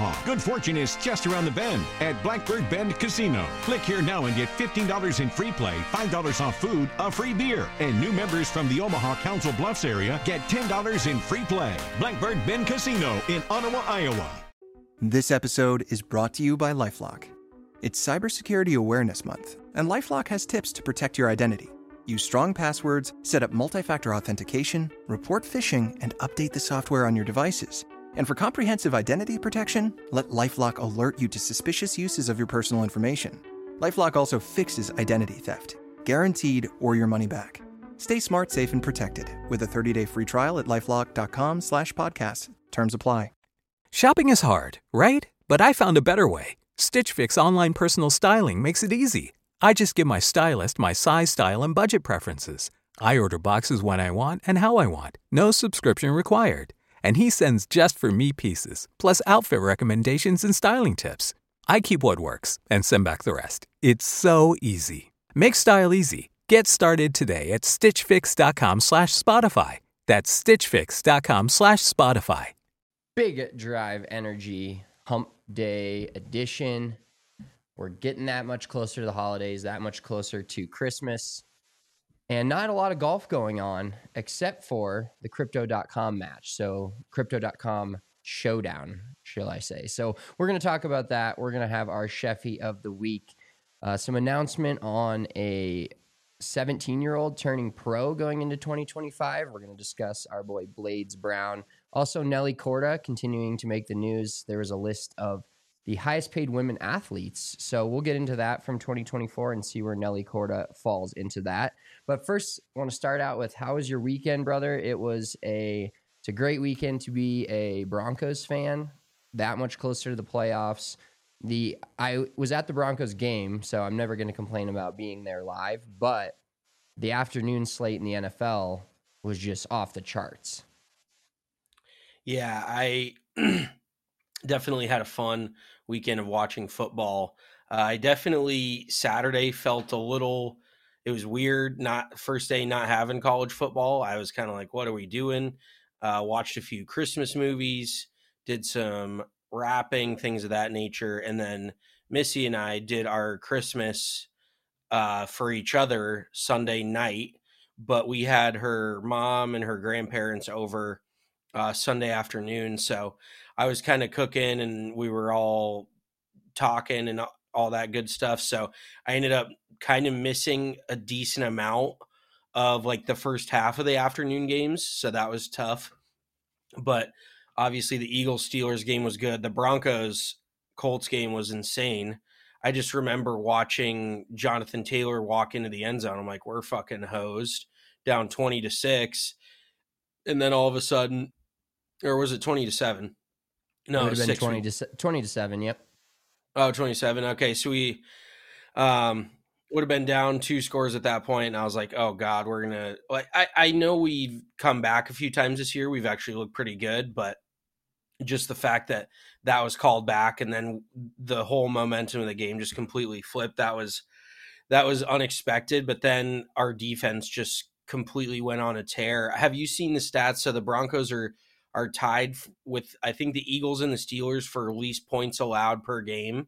Omaha. Good fortune is just around the bend at Blackbird Bend Casino. Click here now and get $15 in free play, $5 off food, a free beer. And new members from the Omaha Council Bluffs area get $10 in free play. Blackbird Bend Casino in Ottawa, Iowa. This episode is brought to you by LifeLock. It's Cybersecurity Awareness Month, and LifeLock has tips to protect your identity. Use strong passwords, set up multi-factor authentication, report phishing, and update the software on your devices. And for comprehensive identity protection, let LifeLock alert you to suspicious uses of your personal information. LifeLock also fixes identity theft, guaranteed or your money back. Stay smart, safe, and protected with a 30-day free trial at LifeLock.com/podcast. Terms apply. Shopping is hard, right? But I found a better way. Stitch Fix online personal styling makes it easy. I just give my stylist my size, style, and budget preferences. I order boxes when I want and how I want. No subscription required. And he sends just for me pieces, plus outfit recommendations and styling tips. I keep what works and send back the rest. It's so easy. Make style easy. Get started today at stitchfix.com/Spotify. That's stitchfix.com/Spotify. Big Drive Energy Hump Day edition. We're getting that much closer to the holidays, that much closer to Christmas, and not a lot of golf going on except for the Crypto.com match. So Crypto.com showdown, shall I say. So we're going to talk about that. We're going to have our Sheffy of the week. Some announcement on a 17-year-old turning pro going into 2025. We're going to discuss our boy Blades Brown. Also, Nelly Korda continuing to make the news. There was a list of the highest paid women athletes. So we'll get into that from 2024 and see where Nelly Korda falls into that. But first, I want to start out with, how was your weekend, brother? It's a great weekend to be a Broncos fan, that much closer to the playoffs. I was at the Broncos game, so I'm never going to complain about being there live, but the afternoon slate in the NFL was just off the charts. Yeah, I definitely had a fun weekend of watching football. I definitely, Saturday felt a little, it was weird, not first day not having college football. I was kind of like, what are we doing? Watched a few Christmas movies, did some wrapping, things of that nature. And then Missy and I did our Christmas for each other Sunday night, but we had her mom and her grandparents over Sunday afternoon. So I was kind of cooking and we were all talking and all that good stuff. So I ended up kind of missing a decent amount of like the first half of the afternoon games. So that was tough. But obviously the Eagles-Steelers game was good. The Broncos-Colts game was insane. I just remember watching Jonathan Taylor walk into the end zone. I'm like, we're fucking hosed, down 20-6. And then all of a sudden, or was it 20-7? No, it would have been 20-7. Yep. Oh, 27. Okay. So we would have been down 2 scores at that point. And I was like, oh God, we're going to, like, I know we've come back a few times this year. We've actually looked pretty good, but just the fact that that was called back and then the whole momentum of the game just completely flipped. That was unexpected, but then our defense just completely went on a tear. Have you seen the stats? So the Broncos are tied with, I think, the Eagles and the Steelers for least points allowed per game.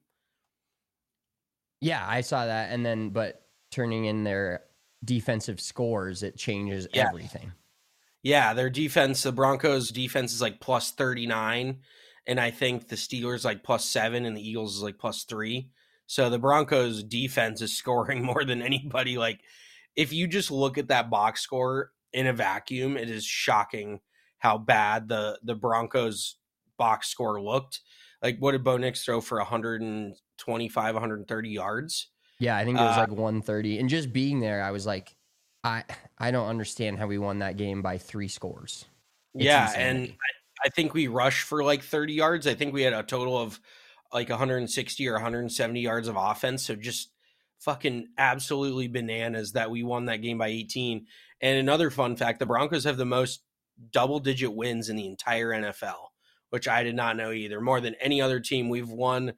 Yeah, I saw that. And then, but turning in their defensive scores, it changes everything. Yeah, their defense, the Broncos defense is like plus 39. And I think the Steelers like plus 7 and the Eagles is like plus 3. So the Broncos defense is scoring more than anybody. Like, if you just look at that box score in a vacuum, it is shocking how bad the Broncos box score looked. Like, what did Bo Nix throw for 125, 130 yards? Yeah, I think it was like 130. And just being there, I was like, I don't understand how we won that game by 3 scores. It's insanity. And I think we rushed for like 30 yards. I think we had a total of like 160 or 170 yards of offense. So just fucking absolutely bananas that we won that game by 18. And another fun fact, the Broncos have the most double-digit wins in the entire NFL, which I did not know either. More than any other team, we've won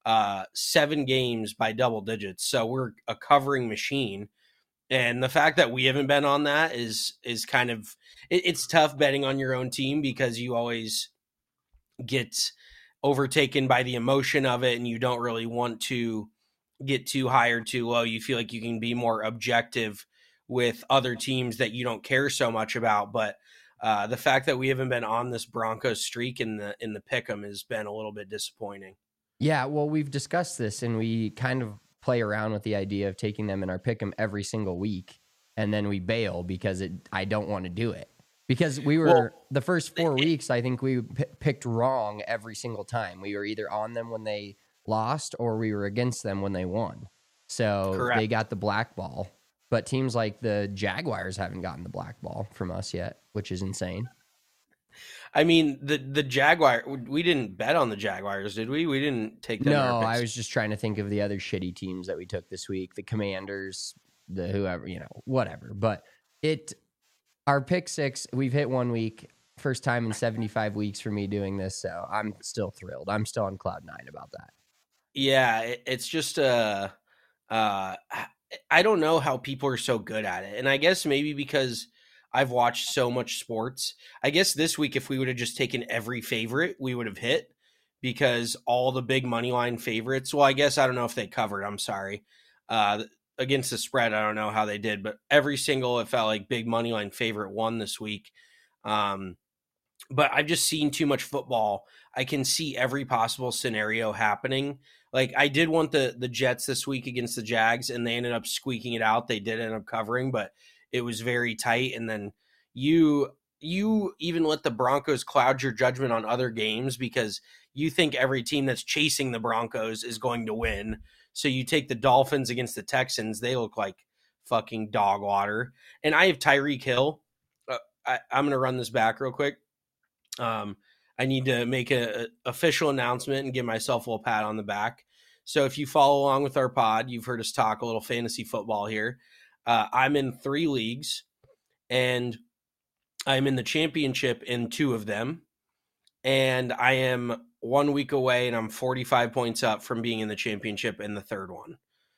7 games by double digits. So we're a covering machine. And the fact that we haven't been on that is kind of, it's tough betting on your own team because you always get overtaken by the emotion of it and you don't really want to get too high or too low. You feel like you can be more objective with other teams that you don't care so much about. But the fact that we haven't been on this Broncos streak in the pick'em has been a little bit disappointing. Yeah, well, we've discussed this, and we kind of play around with the idea of taking them in our pick'em every single week, and then we bail because I don't want to do it. Because we were the first 4 weeks, I think we picked wrong every single time. We were either on them when they lost or we were against them when they won. So Correct. They got the black ball. But teams like the Jaguars haven't gotten the black ball from us yet, which is insane. I mean, the Jaguar, we didn't bet on the Jaguars, did we? We didn't take them. No, I was just trying to think of the other shitty teams that we took this week, the Commanders, the whoever, whatever. But our pick six, we've hit 1 week, first time in 75 weeks for me doing this. So I'm still thrilled. I'm still on cloud nine about that. Yeah, it's just I don't know how people are so good at it. And I guess maybe because I've watched so much sports. I guess this week, if we would have just taken every favorite, we would have hit, because all the big money line favorites, well, I guess I don't know if they covered. I'm sorry. Against the spread, I don't know how they did, but every single, it felt like big money line favorite won this week. But I've just seen too much football. I can see every possible scenario happening. Like, I did want the Jets this week against the Jags, and they ended up squeaking it out. They did end up covering, but it was very tight. And then you even let the Broncos cloud your judgment on other games because you think every team that's chasing the Broncos is going to win. So you take the Dolphins against the Texans. They look like fucking dog water. And I have Tyreek Hill. I'm going to run this back real quick. I need to make a official announcement and give myself a little pat on the back. So if you follow along with our pod, you've heard us talk a little fantasy football here. I'm in 3 leagues, and I'm in the championship in 2 of them. And I am 1 week away, and I'm 45 points up from being in the championship in the 3rd one.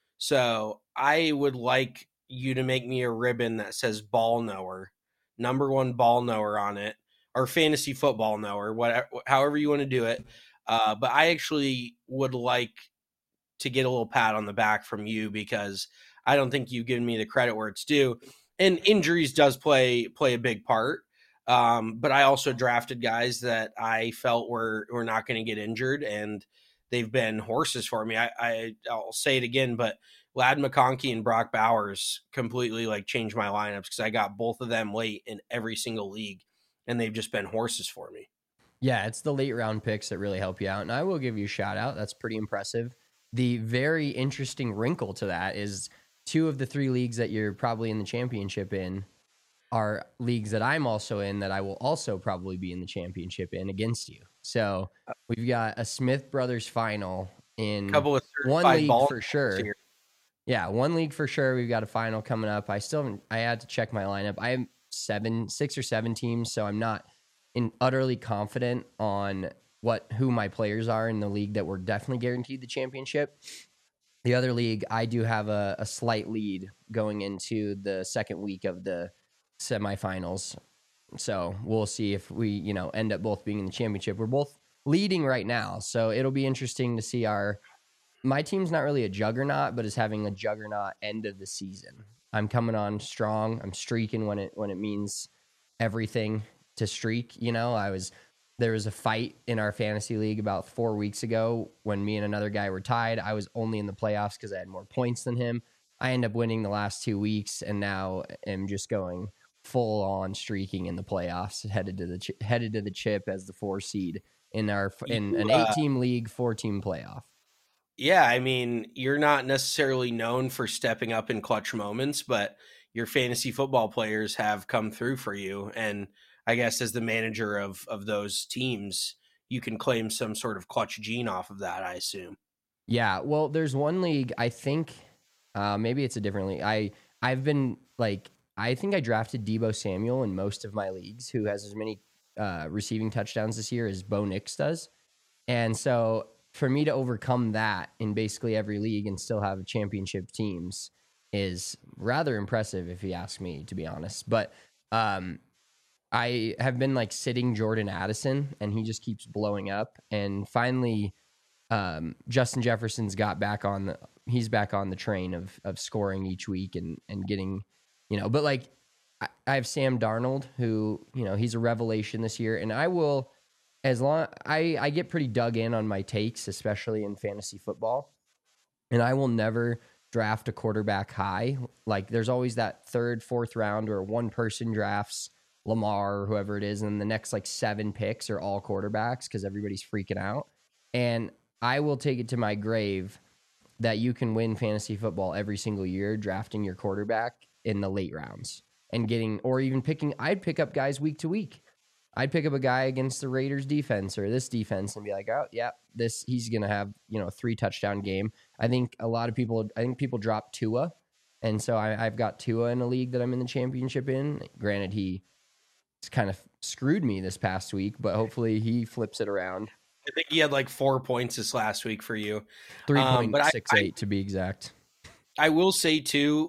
So I would like you to make me a ribbon that says ball knower, number 1 ball knower on it, or fantasy football knower, whatever, however you want to do it. But I actually would like to get a little pat on the back from you, because I don't think you've given me the credit where it's due. And injuries does play a big part. But I also drafted guys that I felt were not going to get injured, and they've been horses for me. I'll say it again, but Ladd McConkey and Brock Bowers completely changed my lineups, because I got both of them late in every single league, and they've just been horses for me. Yeah, it's the late round picks that really help you out. And I will give you a shout out. That's pretty impressive. The very interesting wrinkle to that is 2 of the 3 leagues that you're probably in the championship in are leagues that I'm also in, that I will also probably be in the championship in against you. So we've got a Smith Brothers final in one league for sure. Here. Yeah, 1 league for sure. We've got a final coming up. I had to check my lineup. I have 6 or 7 teams, so I'm not utterly confident on who my players are in the league that we're definitely guaranteed the championship. The other league, I do have a slight lead going into the 2nd week of the semifinals. So we'll see if we, end up both being in the championship. We're both leading right now, so it'll be interesting to see my team's not really a juggernaut, but is having a juggernaut end of the season. I'm coming on strong. I'm streaking when it means everything to streak. There was a fight in our fantasy league about 4 weeks ago when me and another guy were tied. I was only in the playoffs because I had more points than him. I ended up winning the last 2 weeks, and now am just going full on streaking in the playoffs, headed to the chip as the 4 seed in an 8-team league, 4-team playoff. Yeah, I mean, you're not necessarily known for stepping up in clutch moments, but your fantasy football players have come through for you. And I guess as the manager of those teams, you can claim some sort of clutch gene off of that, I assume. Yeah, well, there's one league, I think, maybe it's a different league. I think I drafted Deebo Samuel in most of my leagues, who has as many receiving touchdowns this year as Bo Nix does. And so for me to overcome that in basically every league and still have championship teams is rather impressive, if you ask me, to be honest. But I have been like sitting Jordan Addison, and he just keeps blowing up. And finally, Justin Jefferson's back on the train of scoring each week and getting, but like I have Sam Darnold, who, he's a revelation this year, and I will, as long I get pretty dug in on my takes, especially in fantasy football, and I will never draft a quarterback high. Like there's always that third, fourth round where one person drafts Lamar or whoever it is, and the next like 7 picks are all quarterbacks because everybody's freaking out. And I will take it to my grave that you can win fantasy football every single year drafting your quarterback in the late rounds and or even I'd pick up guys week to week. I'd pick up a guy against the Raiders defense or this defense and be like, oh yeah, he's going to have, a 3 touchdown game. I think people drop Tua. And so I've got Tua in a league that I'm in the championship in. Granted, he's kind of screwed me this past week, but hopefully he flips it around. I think he had like 4 points this last week for you. 3.68 to be exact. I will say too,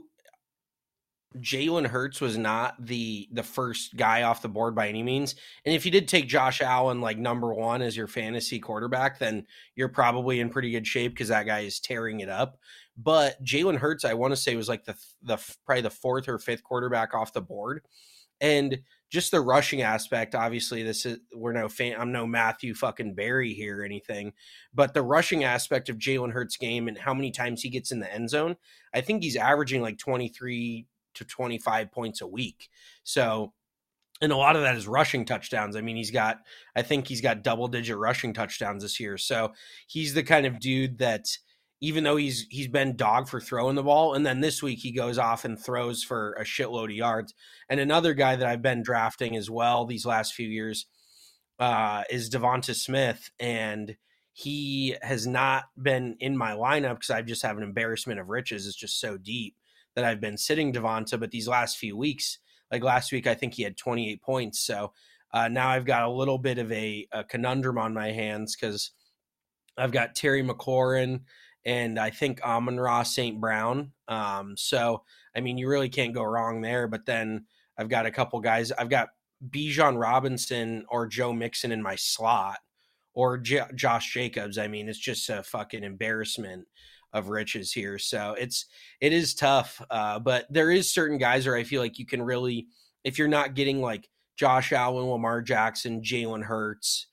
Jalen Hurts was not the first guy off the board by any means. And if you did take Josh Allen like number 1 as your fantasy quarterback, then you're probably in pretty good shape because that guy is tearing it up. But Jalen Hurts, I want to say, was like the probably the 4th or 5th quarterback off the board. And just the rushing aspect, obviously I'm no Matthew fucking Barry here or anything, but the rushing aspect of Jalen Hurts' game and how many times he gets in the end zone, I think he's averaging like 23 to 25 points a week. So, and a lot of that is rushing touchdowns. I mean, I think he's got double-digit rushing touchdowns this year. So he's the kind of dude that, even though he's been dog for throwing the ball, and then this week he goes off and throws for a shitload of yards. And another guy that I've been drafting as well these last few years is Devonta Smith, and he has not been in my lineup because I just have an embarrassment of riches. It's just so deep that I've been sitting Devonta, but these last few weeks, like last week, I think he had 28 points. So now I've got a little bit of a conundrum on my hands because I've got Terry McLaurin and I think Amon-Ra St. Brown. So, I mean, you really can't go wrong there. But then I've got a couple guys. I've got Bijan Robinson or Joe Mixon in my slot or Josh Jacobs. I mean, it's just a fucking embarrassment of riches here. So it is tough. But there is certain guys where I feel like you can really, if you're not getting like Josh Allen, Lamar Jackson, Jalen Hurts,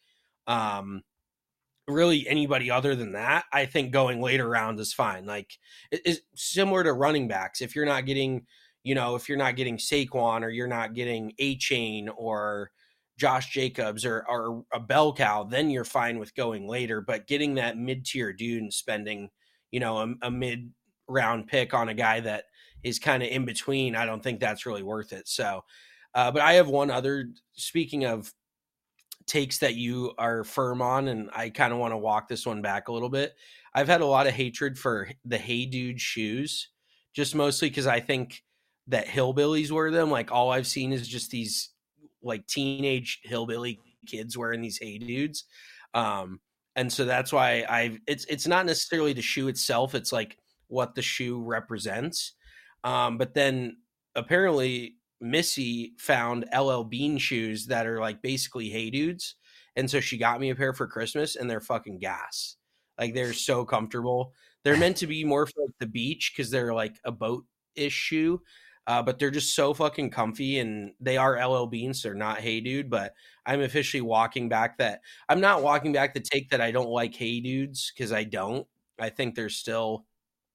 really anybody other than that, I think going later rounds is fine. Like it's similar to running backs. If you're not getting, if you're not getting Saquon or you're not getting A-Chain or Josh Jacobs or a bell cow, then you're fine with going later. But getting that mid-tier dude and spending, a mid-round pick on a guy that is kind of in between, I don't think that's really worth it. So, but I have one other, speaking of takes that you are firm on, and I kind of want to walk this one back a little bit. I've had a lot of hatred for the Hey Dude shoes, just mostly because I think that hillbillies wear them. Like all I've seen is just these like teenage hillbilly kids wearing these Hey Dudes. And so that's why it's not necessarily the shoe itself. It's like what the shoe represents. But then apparently Missy found LL Bean shoes that are like basically Hey Dudes. And so she got me a pair for Christmas and they're fucking gas. Like they're so comfortable. They're meant to be more for like the beach because they're like a boat-ish shoe. But they're just so fucking comfy, and they are LL Bean, so they're not Hey Dude. But I'm officially walking back that. I'm not walking back the take that I don't like Hey Dudes because I don't. I think they're still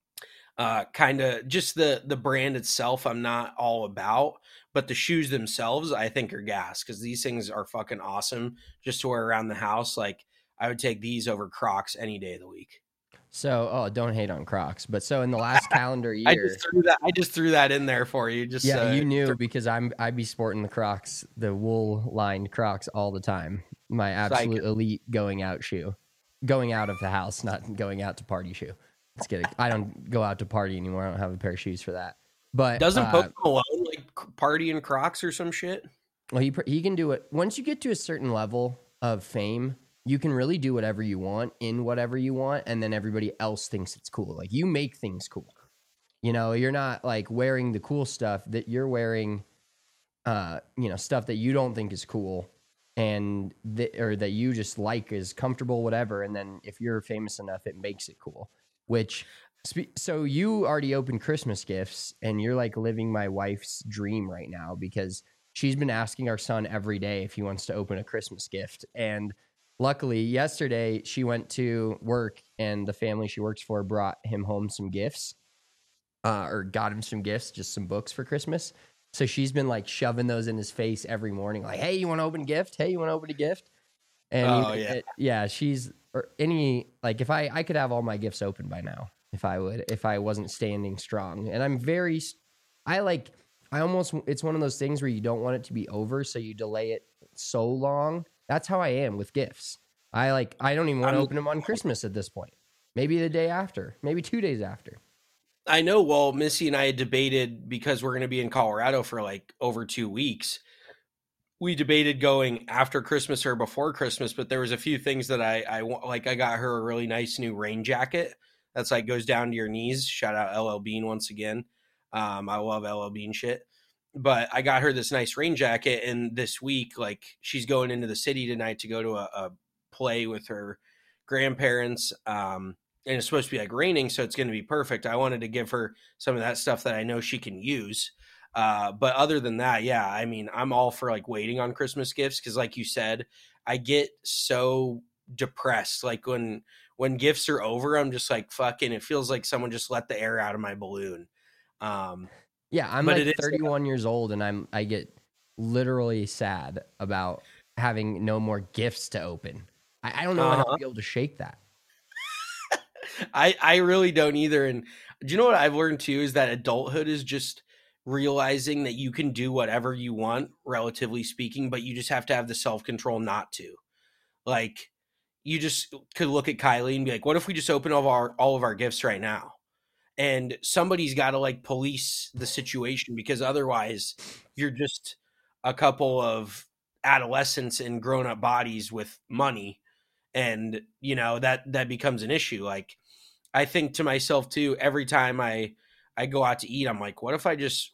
kind of just the brand itself I'm not all about. But the shoes themselves I think are gas because these things are fucking awesome just to wear around the house. Like I would take these over Crocs any day of the week. So, don't hate on Crocs. But so in the last calendar year, I just threw that in there for you. Just you knew because I'd be sporting the Crocs, the wool lined Crocs all the time. My absolute elite going out shoe, going out of the house, not going out to party shoe. Let's get it. I don't go out to party anymore. I don't have a pair of shoes for that. But doesn't Post Malone like party in Crocs or some shit? Well, he can do it once you get to a certain level of fame. You can really do whatever you want in whatever you want, and then everybody else thinks it's cool. Like, you make things cool. You're not, like, wearing the cool stuff that you're wearing. stuff that you don't think is cool and or that you just like is comfortable, whatever. And then if you're famous enough, it makes it cool, so you already opened Christmas gifts and you're like living my wife's dream right now because she's been asking our son every day if he wants to open a Christmas gift. And luckily yesterday she went to work and the family she works for brought him home some gifts, or got him some gifts, just some books for Christmas. So she's been like shoving those in his face every morning. Like, hey, you want to open a gift? Hey, you want to open a gift? And she's, or any, like if I could have all my gifts open by now, if I wasn't standing strong. And it's one of those things where you don't want it to be over. So you delay it so long. That's how I am with gifts. I don't even want to open them on Christmas at this point. Maybe the day after, maybe 2 days after. I know. Well, Missy and I had debated because we're going to be in Colorado for like over 2 weeks. We debated going after Christmas or before Christmas, but there was a few things that I got her a really nice new rain jacket that's like goes down to your knees. Shout out LL Bean once again. I love LL Bean shit. But I got her this nice rain jacket, and this week, like she's going into the city tonight to go to a play with her grandparents. And it's supposed to be like raining, so it's going to be perfect. I wanted to give her some of that stuff that I know she can use. But other than that, yeah, I mean, I'm all for like waiting on Christmas gifts because, like you said, I get so depressed. Like when gifts are over, I'm just like, fucking, it feels like someone just let the air out of my balloon. Yeah, I'm like 31 years old, and I get literally sad about having no more gifts to open. I don't know how I'll be able to shake that. I really don't either. And do you know what I've learned too is that adulthood is just realizing that you can do whatever you want, relatively speaking, but you just have to have the self-control not to. Like, you just could look at Kylie and be like, what if we just open all of our gifts right now? And somebody's got to like police the situation, because otherwise you're just a couple of adolescents in grown-up bodies with money. And, you know, that becomes an issue. Like, I think to myself too, every time I go out to eat, I'm like, what if I just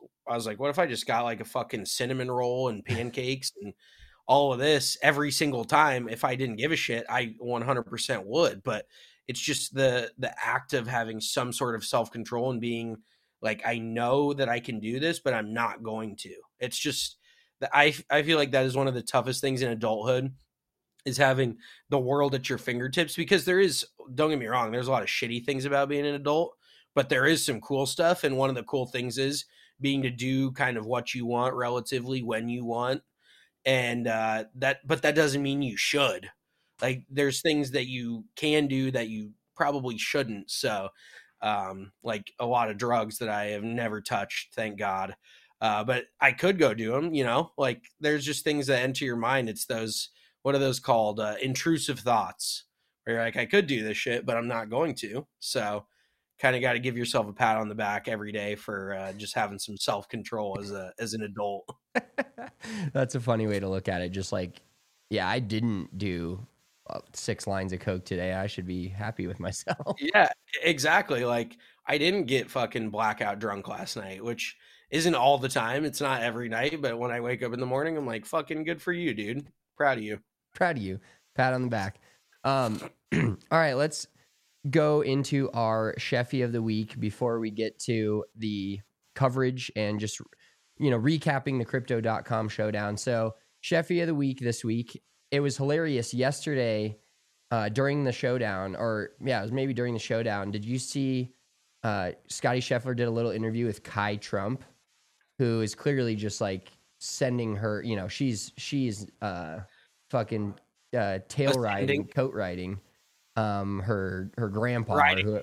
got like a fucking cinnamon roll and pancakes and all of this every single time? If I didn't give a shit, I 100% would. But it's just the act of having some sort of self-control and being like, I know that I can do this, but I'm not going to. It's just that I feel like that is one of the toughest things in adulthood, is having the world at your fingertips. Because there is, don't get me wrong, there's a lot of shitty things about being an adult, but there is some cool stuff. And one of the cool things is being to do kind of what you want relatively when you want. And but that doesn't mean you should. Like, there's things that you can do that you probably shouldn't. So like a lot of drugs that I have never touched, thank God. But I could go do them, you know, like there's just things that enter your mind. It's those, what are those called? Intrusive thoughts, where you're like, I could do this shit, but I'm not going to. So kind of got to give yourself a pat on the back every day for just having some self-control as an adult. That's a funny way to look at it. Just like, yeah, I didn't do 6 lines of Coke today. I should be happy with myself. Yeah, exactly. Like, I didn't get fucking blackout drunk last night, which isn't all the time. It's not every night, but when I wake up in the morning, I'm like, fucking good for you, dude. Proud of you. Proud of you. Pat on the back. All right, let's go into our Sheffy of the week before we get to the coverage and just, you know, recapping the Crypto.com showdown. So Sheffy of the week this week, it was hilarious yesterday during the showdown, or yeah, it was maybe during the showdown. Did you see Scotty Scheffler did a little interview with Kai Trump, who is clearly just like sending her, you know, she's fucking tail riding, coat riding her grandpa, riding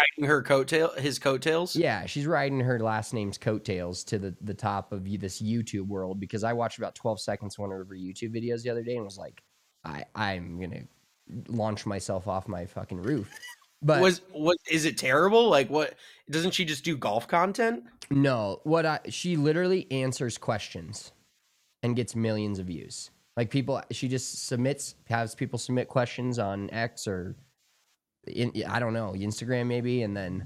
his coattails. Yeah, she's riding her last name's coattails to the top of this YouTube world, because I watched about 12 seconds of one of her YouTube videos the other day and was like, I'm gonna launch myself off my fucking roof. But is it terrible? Like, what, doesn't she just do golf content? No, she literally answers questions and gets millions of views. Like, she just has people submit questions on X or I don't know, Instagram maybe, and then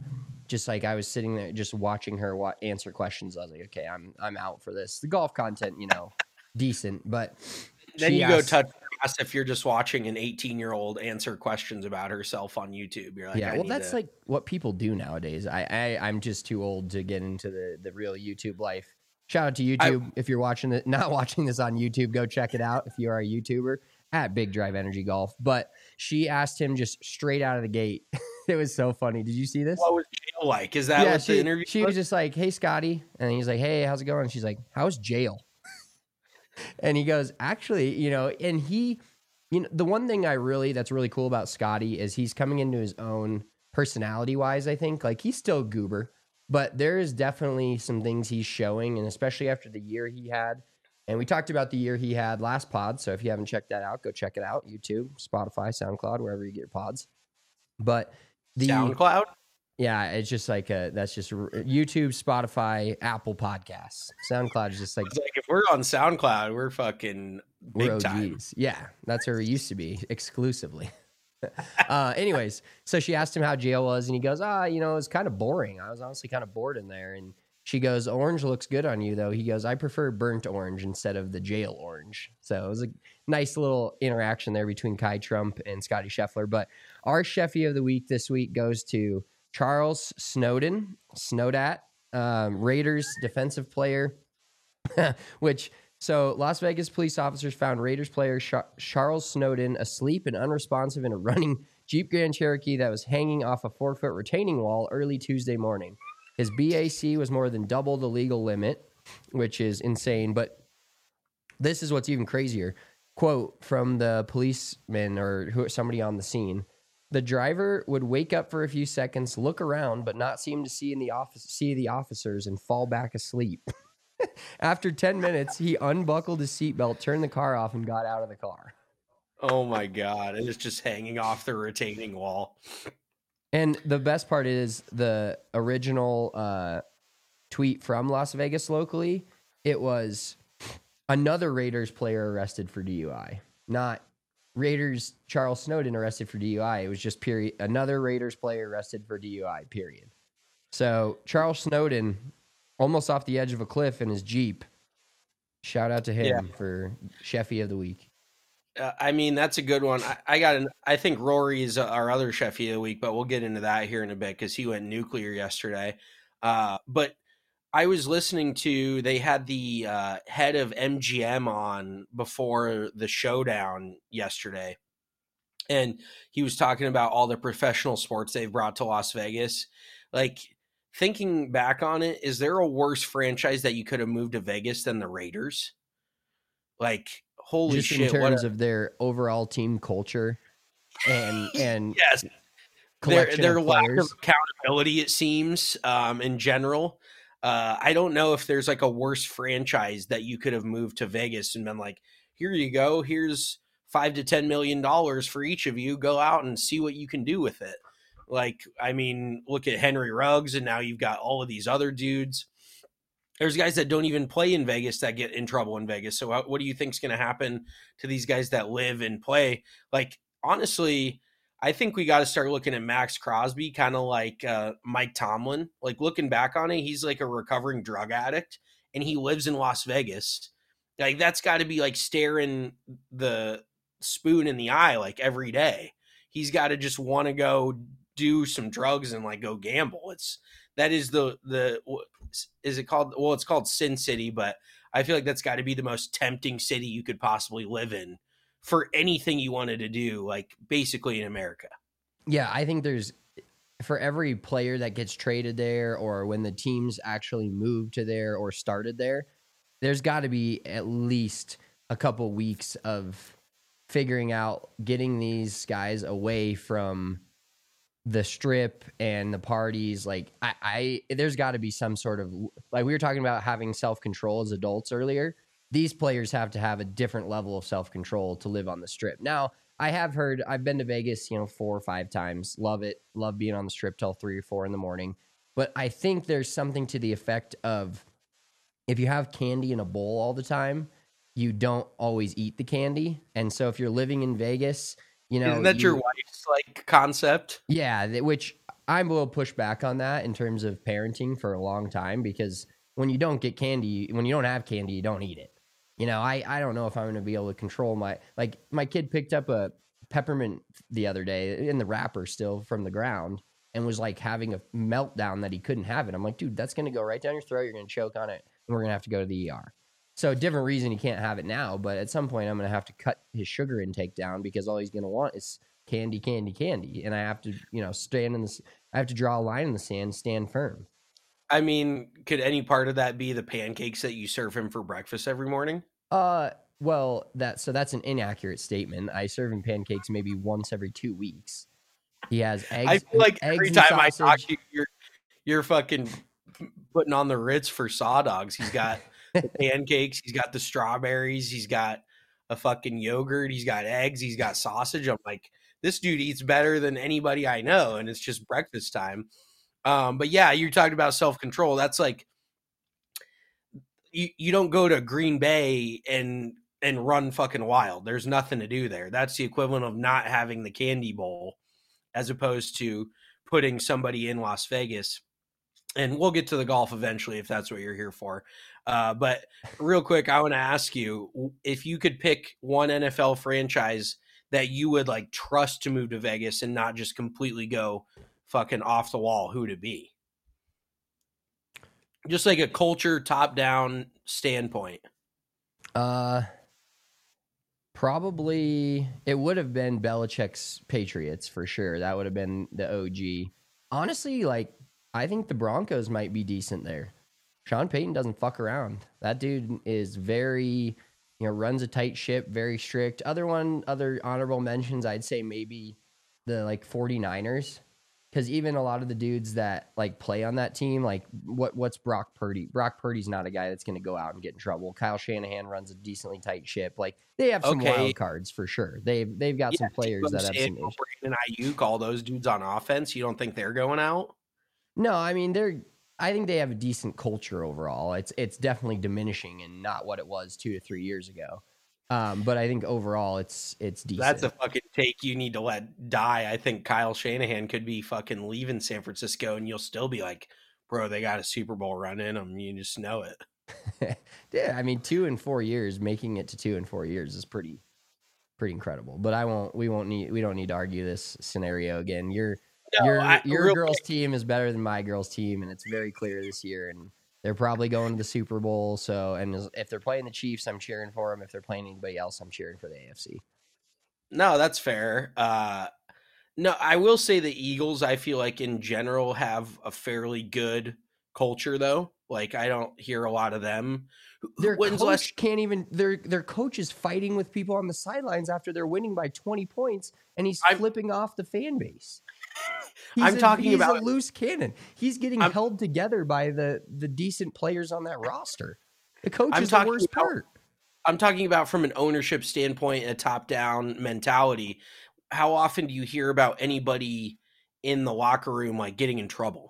just like I was sitting there just watching her answer questions. I was like, okay, I'm out for this. The golf content, decent, but then you go touch grass if you're just watching an 18-year-old answer questions about herself on YouTube. You're like, yeah, well, that's like what people do nowadays. I'm just too old to get into the real YouTube life. Shout out to YouTube. If you're not watching this on YouTube, go check it out. If you are a YouTuber at Big Drive Energy Golf. But she asked him just straight out of the gate. It was so funny. Did you see this? What was jail like? Is that what the interview She was just like, hey, Scotty. And he's like, hey, how's it going? And she's like, how's jail? And he goes, actually, and he, the one thing that's really cool about Scotty is he's coming into his own personality wise, I think. Like, he's still goober, but there is definitely some things he's showing, and especially after the year he had. And we talked about the year he had last pod. So if you haven't checked that out, go check it out. YouTube, Spotify, SoundCloud, wherever you get your pods. But the SoundCloud? Yeah, it's just like that's just YouTube, Spotify, Apple Podcasts. SoundCloud is just like if we're on SoundCloud, we're fucking big time. Yeah, that's where we used to be exclusively. Anyways, so she asked him how jail was, and he goes, it was kind of boring. I was honestly kind of bored in there. And she goes, orange looks good on you, though. He goes, I prefer burnt orange instead of the jail orange. So it was a nice little interaction there between Kai Trump and Scotty Scheffler. But our Sheffy of the week this week goes to Charles Snowden, Snowdat, Raiders defensive player, So Las Vegas police officers found Raiders player Charles Snowden asleep and unresponsive in a running Jeep Grand Cherokee that was hanging off a 4-foot retaining wall early Tuesday morning. His BAC was more than double the legal limit, which is insane. But this is what's even crazier. Quote from the policeman or somebody on the scene. The driver would wake up for a few seconds, look around, but not seem to see the officers and fall back asleep. After 10 minutes, he unbuckled his seatbelt, turned the car off, and got out of the car. Oh, my God. It was just hanging off the retaining wall. And the best part is the original tweet from Las Vegas locally. It was another Raiders player arrested for DUI, not Raiders Charles Snowden arrested for DUI. It was just another Raiders player arrested for DUI, period. So Charles Snowden almost off the edge of a cliff in his Jeep. Shout out to him for Sheffy of the week. I mean, that's a good one. I think Rory is our other Sheffy of the week, but we'll get into that here in a bit because he went nuclear yesterday. But I was listening to, they had the head of MGM on before the showdown yesterday. And he was talking about all the professional sports they've brought to Las Vegas. Like, thinking back on it, is there a worse franchise that you could have moved to Vegas than the Raiders? Like, holy just shit. In terms of their overall team culture and yes, their lack of accountability, it seems, in general. I don't know if there's like a worse franchise that you could have moved to Vegas and been like, here you go. Here's $5 to $10 million for each of you. Go out and see what you can do with it. Like, I mean, look at Henry Ruggs, and now you've got all of these other dudes. There's guys that don't even play in Vegas that get in trouble in Vegas. So what do you think is going to happen to these guys that live and play? Like, honestly, I think we got to start looking at Max Crosby kind of like Mike Tomlin. Like, looking back on it, he's like a recovering drug addict, and he lives in Las Vegas. Like, that's got to be like staring the spoon in the eye like every day. He's got to just want to go do some drugs and like go gamble. Is it called? Well, it's called Sin City, but I feel like that's got to be the most tempting city you could possibly live in for anything you wanted to do, like basically in America. Yeah, I think for every player that gets traded there, or when the teams actually moved to there or started there, there's got to be at least a couple weeks of figuring out getting these guys away from the strip and the parties. Like, there's got to be some sort of, like we were talking about having self-control as adults earlier. These players have to have a different level of self-control to live on the strip. Now, I've been to Vegas, 4 or 5 times. Love it. Love being on the strip till 3 or 4 in the morning. But I think there's something to the effect of, if you have candy in a bowl all the time, you don't always eat the candy. And so if you're living in Vegas, isn't that your wife's like concept? Yeah, which I will push back on that in terms of parenting for a long time, because when you don't get candy, when you don't have candy, you don't eat it. You know, I don't know if I'm going to be able to control my kid picked up a peppermint the other day in the wrapper still from the ground and was like having a meltdown that he couldn't have it. I'm like, dude, that's going to go right down your throat. You're going to choke on it, and we're going to have to go to the ER. So different reason he can't have it now, but at some point I'm going to have to cut his sugar intake down because all he's going to want is candy, candy, candy. And I have to, I have to draw a line in the sand, stand firm. I mean, could any part of that be the pancakes that you serve him for breakfast every morning? Well, that's an inaccurate statement. I serve him pancakes maybe once every 2 weeks. He has eggs. I feel like every time I talk to you, you're fucking putting on the Ritz for Saw Dogs. He's got the pancakes, he's got the strawberries, he's got a fucking yogurt, he's got eggs, he's got sausage. I'm like, this dude eats better than anybody I know, and it's just breakfast time. But yeah, you're talking about self-control. That's like, you don't go to Green Bay and run fucking wild. There's nothing to do there. That's the equivalent of not having the candy bowl, as opposed to putting somebody in Las Vegas. And we'll get to the golf eventually if that's what you're here for. But real quick, I want to ask you, if you could pick one NFL franchise that you would like trust to move to Vegas and not just completely go fucking off the wall, who would it be? Just like a culture top-down standpoint. Probably it would have been Belichick's Patriots for sure. That would have been the OG. Honestly, like, I think the Broncos might be decent there. Sean Payton doesn't fuck around. That dude is very, runs a tight ship, very strict. Other honorable mentions, I'd say maybe the 49ers. Because even a lot of the dudes that play on that team, what's Brock Purdy? Brock Purdy's not a guy that's going to go out and get in trouble. Kyle Shanahan runs a decently tight ship. They have some wild cards for sure. They've got some players that have some issues. And Ayuk, all those dudes on offense, you don't think they're going out? No, I mean I think they have a decent culture overall. It's definitely diminishing and not what it was 2 to 3 years ago. But I think overall it's decent. That's a fucking take you need to let die. I think Kyle Shanahan could be fucking leaving San Francisco and you'll still be like, bro, they got a Super Bowl run in them. You just know it. Yeah, I mean, 2 and 4 years, making it to 2 and 4 years is pretty incredible. But we don't need to argue this scenario again. Your girls' team is better than my girls' team, and it's very clear this year. And they're probably going to the Super Bowl. So, and if they're playing the Chiefs, I'm cheering for them. If they're playing anybody else, I'm cheering for the AFC. No, that's fair. No, I will say the Eagles, I feel like in general have a fairly good culture, though. I don't hear a lot of them. Their coach can't even. Their coach is fighting with people on the sidelines after they're winning by 20 points, and he's flipping off the fan base. He's a loose cannon. He's getting held together by the decent players on that roster. The coach is the worst part. I'm talking about from an ownership standpoint, a top-down mentality. How often do you hear about anybody in the locker room getting in trouble?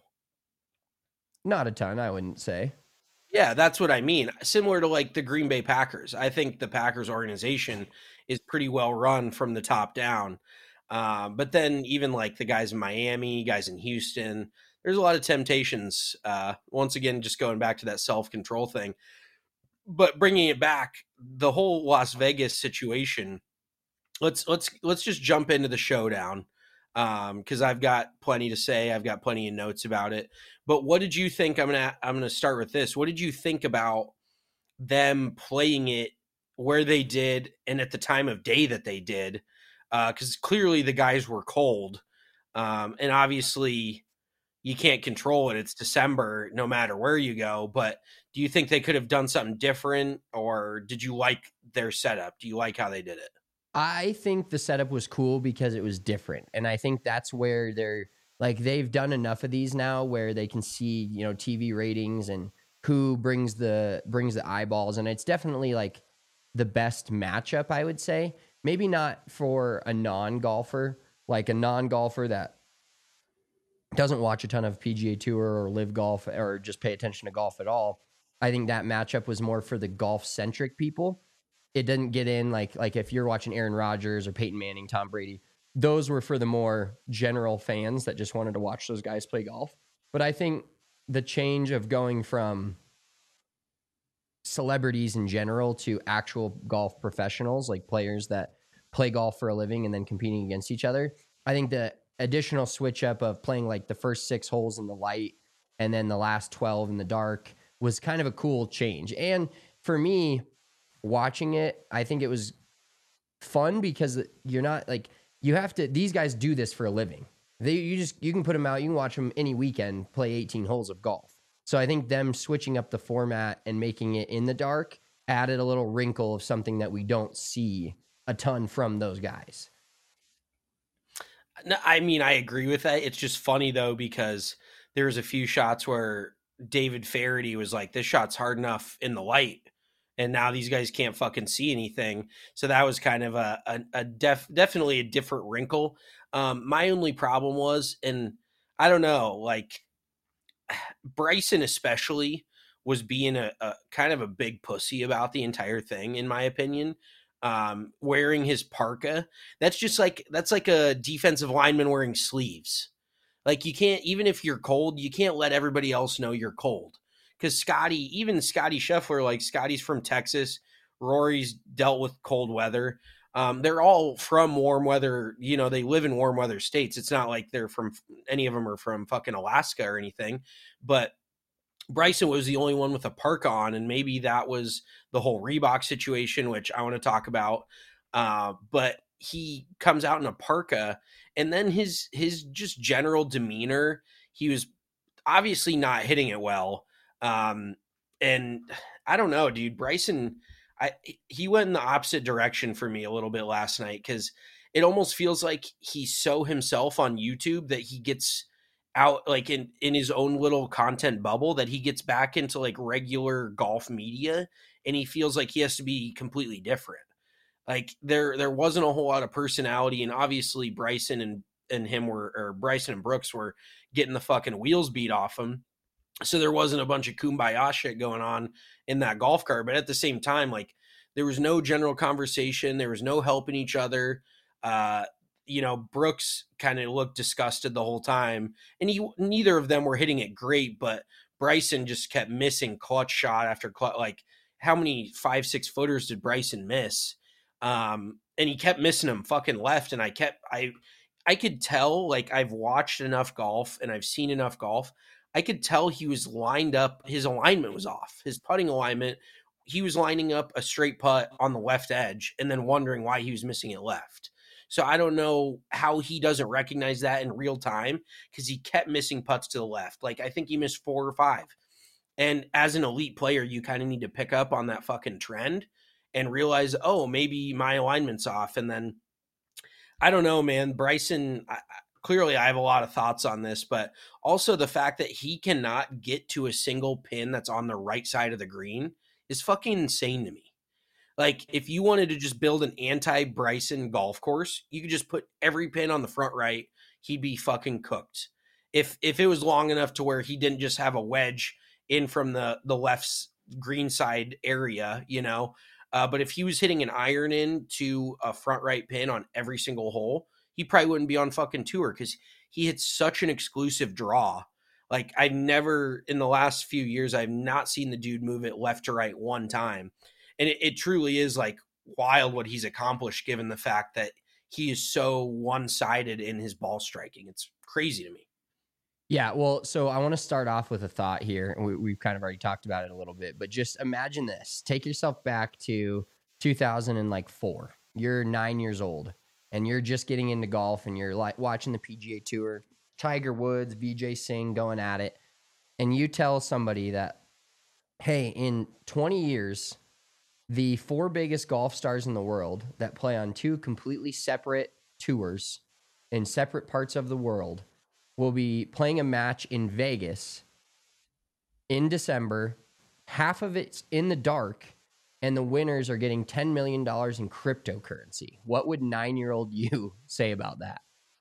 Not a ton, I wouldn't say. Yeah, that's what I mean. Similar to the Green Bay Packers. I think the Packers organization is pretty well run from the top down. But then even the guys in Miami, guys in Houston, there's a lot of temptations. Once again, just going back to that self-control thing. But bringing it back, the whole Las Vegas situation, let's just jump into the showdown. Because I've got plenty to say. I've got plenty of notes about it. But what did you think? I'm gonna start with this. What did you think about them playing it where they did and at the time of day that they did? Because clearly the guys were cold. And obviously you can't control it. It's December no matter where you go. But do you think they could have done something different, or did you like their setup? Do you like how they did it? I think the setup was cool because it was different. And I think that's where they've done enough of these now where they can see, TV ratings and who brings the eyeballs. And it's definitely the best matchup, I would say. Maybe not for a non-golfer, a non-golfer that doesn't watch a ton of PGA Tour or live golf or just pay attention to golf at all. I think that matchup was more for the golf-centric people. It didn't get in like if you're watching Aaron Rodgers or Peyton Manning, Tom Brady, those were for the more general fans that just wanted to watch those guys play golf. But I think the change of going from celebrities in general to actual golf professionals, like players that play golf for a living and then competing against each other, I think the additional switch up of playing like the first 6 holes in the light and then the last 12 in the dark was kind of a cool change. And for me, watching it, I think it was fun because you're not like, you have to, these guys do this for a living. You can put them out, you can watch them any weekend play 18 holes of golf. So I think them switching up the format and making it in the dark added a little wrinkle of something that we don't see a ton from those guys. No, I mean, I agree with that. It's just funny though, because there was a few shots where David Feherty was like, this shot's hard enough in the light, and now these guys can't fucking see anything. So that was kind of definitely a different wrinkle. My only problem was, and I don't know, like Bryson especially was being a kind of a big pussy about the entire thing, in my opinion. Wearing his parka, that's like a defensive lineman wearing sleeves. Like, you can't, even if you're cold, you can't let everybody else know you're cold. Because Scotty Scheffler, like Scotty's from Texas, Rory's dealt with cold weather. They're all from warm weather. You know, they live in warm weather states. It's not like any of them are from fucking Alaska or anything. But Bryson was the only one with a parka on, and maybe that was the whole Reebok situation, which I want to talk about. But he comes out in a parka, and then his just general demeanor, he was obviously not hitting it well. And I don't know, dude, Bryson, he went in the opposite direction for me a little bit last night, because it almost feels like he's so himself on YouTube that he gets out like in his own little content bubble, that he gets back into like regular golf media and he feels like he has to be completely different. Like there wasn't a whole lot of personality, and obviously Bryson and Brooks were getting the fucking wheels beat off him. So there wasn't a bunch of kumbaya shit going on in that golf cart. But at the same time, like, there was no general conversation. There was no helping each other. Brooks kind of looked disgusted the whole time, and neither of them were hitting it great, but Bryson just kept missing clutch shot after clutch. Like, how many 5-6 footers did Bryson miss? And he kept missing them fucking left. And I could tell, like, I've watched enough golf and I've seen enough golf. I could tell he was lined up. His alignment was off. His putting alignment, he was lining up a straight putt on the left edge and then wondering why he was missing it left. So I don't know how he doesn't recognize that in real time, because he kept missing putts to the left. Like, I think he missed 4 or 5. And as an elite player, you kind of need to pick up on that fucking trend and realize, oh, maybe my alignment's off. And then, I don't know, man, Bryson, clearly I have a lot of thoughts on this, but also the fact that he cannot get to a single pin that's on the right side of the green is fucking insane to me. Like, if you wanted to just build an anti-Bryson golf course, you could just put every pin on the front right. He'd be fucking cooked. If it was long enough to where he didn't just have a wedge in from the left green side area, you know. But if he was hitting an iron in to a front right pin on every single hole, he probably wouldn't be on fucking tour, because he hits such an exclusive draw. Like, I've never, in the last few years, I've not seen the dude move it left to right one time. And it truly is like wild what he's accomplished, given the fact that he is so one-sided in his ball striking. It's crazy to me. Yeah, well, so I want to start off with a thought here, and we've kind of already talked about it a little bit, but just imagine this. Take yourself back to 2004. You're 9 years old, and you're just getting into golf, and you're like watching the PGA Tour, Tiger Woods, Vijay Singh going at it, and you tell somebody that, hey, in 20 years, the 4 biggest golf stars in the world that play on 2 completely separate tours in separate parts of the world will be playing a match in Vegas in December. Half of it's in the dark, and the winners are getting $10 million in cryptocurrency. What would 9-year-old you say about that?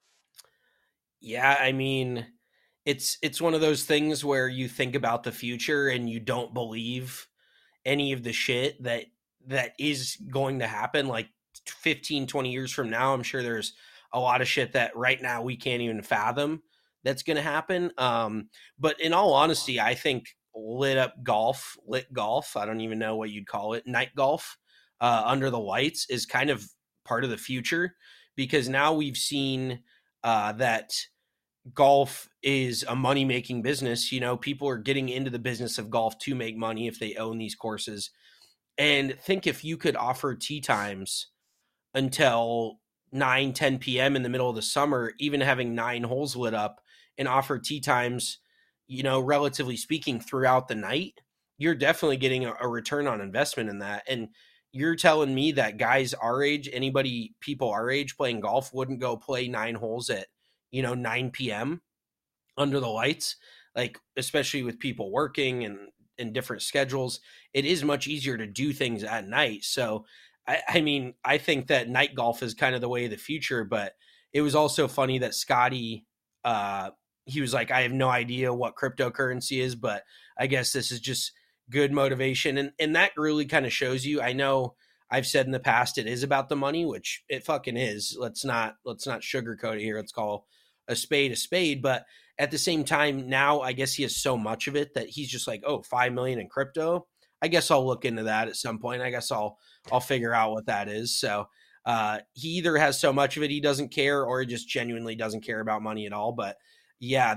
Yeah, I mean, it's one of those things where you think about the future and you don't believe any of the shit that is going to happen. Like 15, 20 years from now, I'm sure there's a lot of shit that right now we can't even fathom that's going to happen. But in all honesty, I think lit golf, I don't even know what you'd call it, night golf under the lights is kind of part of the future, because now we've seen that golf is a money-making business. You know, people are getting into the business of golf to make money if they own these courses. And think if you could offer tee times until 9-10 p.m. in the middle of the summer, even having 9 holes lit up, and offer tee times, you know, relatively speaking, throughout the night, you're definitely getting a return on investment in that. And you're telling me that guys our age, people our age playing golf wouldn't go play 9 holes at, 9 p.m. under the lights, like, especially with people working and different schedules, it is much easier to do things at night. So, I mean, I think that night golf is kind of the way of the future, but it was also funny that Scotty, he was like, I have no idea what cryptocurrency is, but I guess this is just good motivation. And that really kind of shows you, I know I've said in the past, it is about the money, which it fucking is. Let's not sugarcoat it here. Let's call a spade. But at the same time, now I guess he has so much of it that he's just like, oh, 5 million in crypto. I guess I'll look into that at some point. I guess I'll figure out what that is. So he either has so much of it he doesn't care, or he just genuinely doesn't care about money at all. But yeah,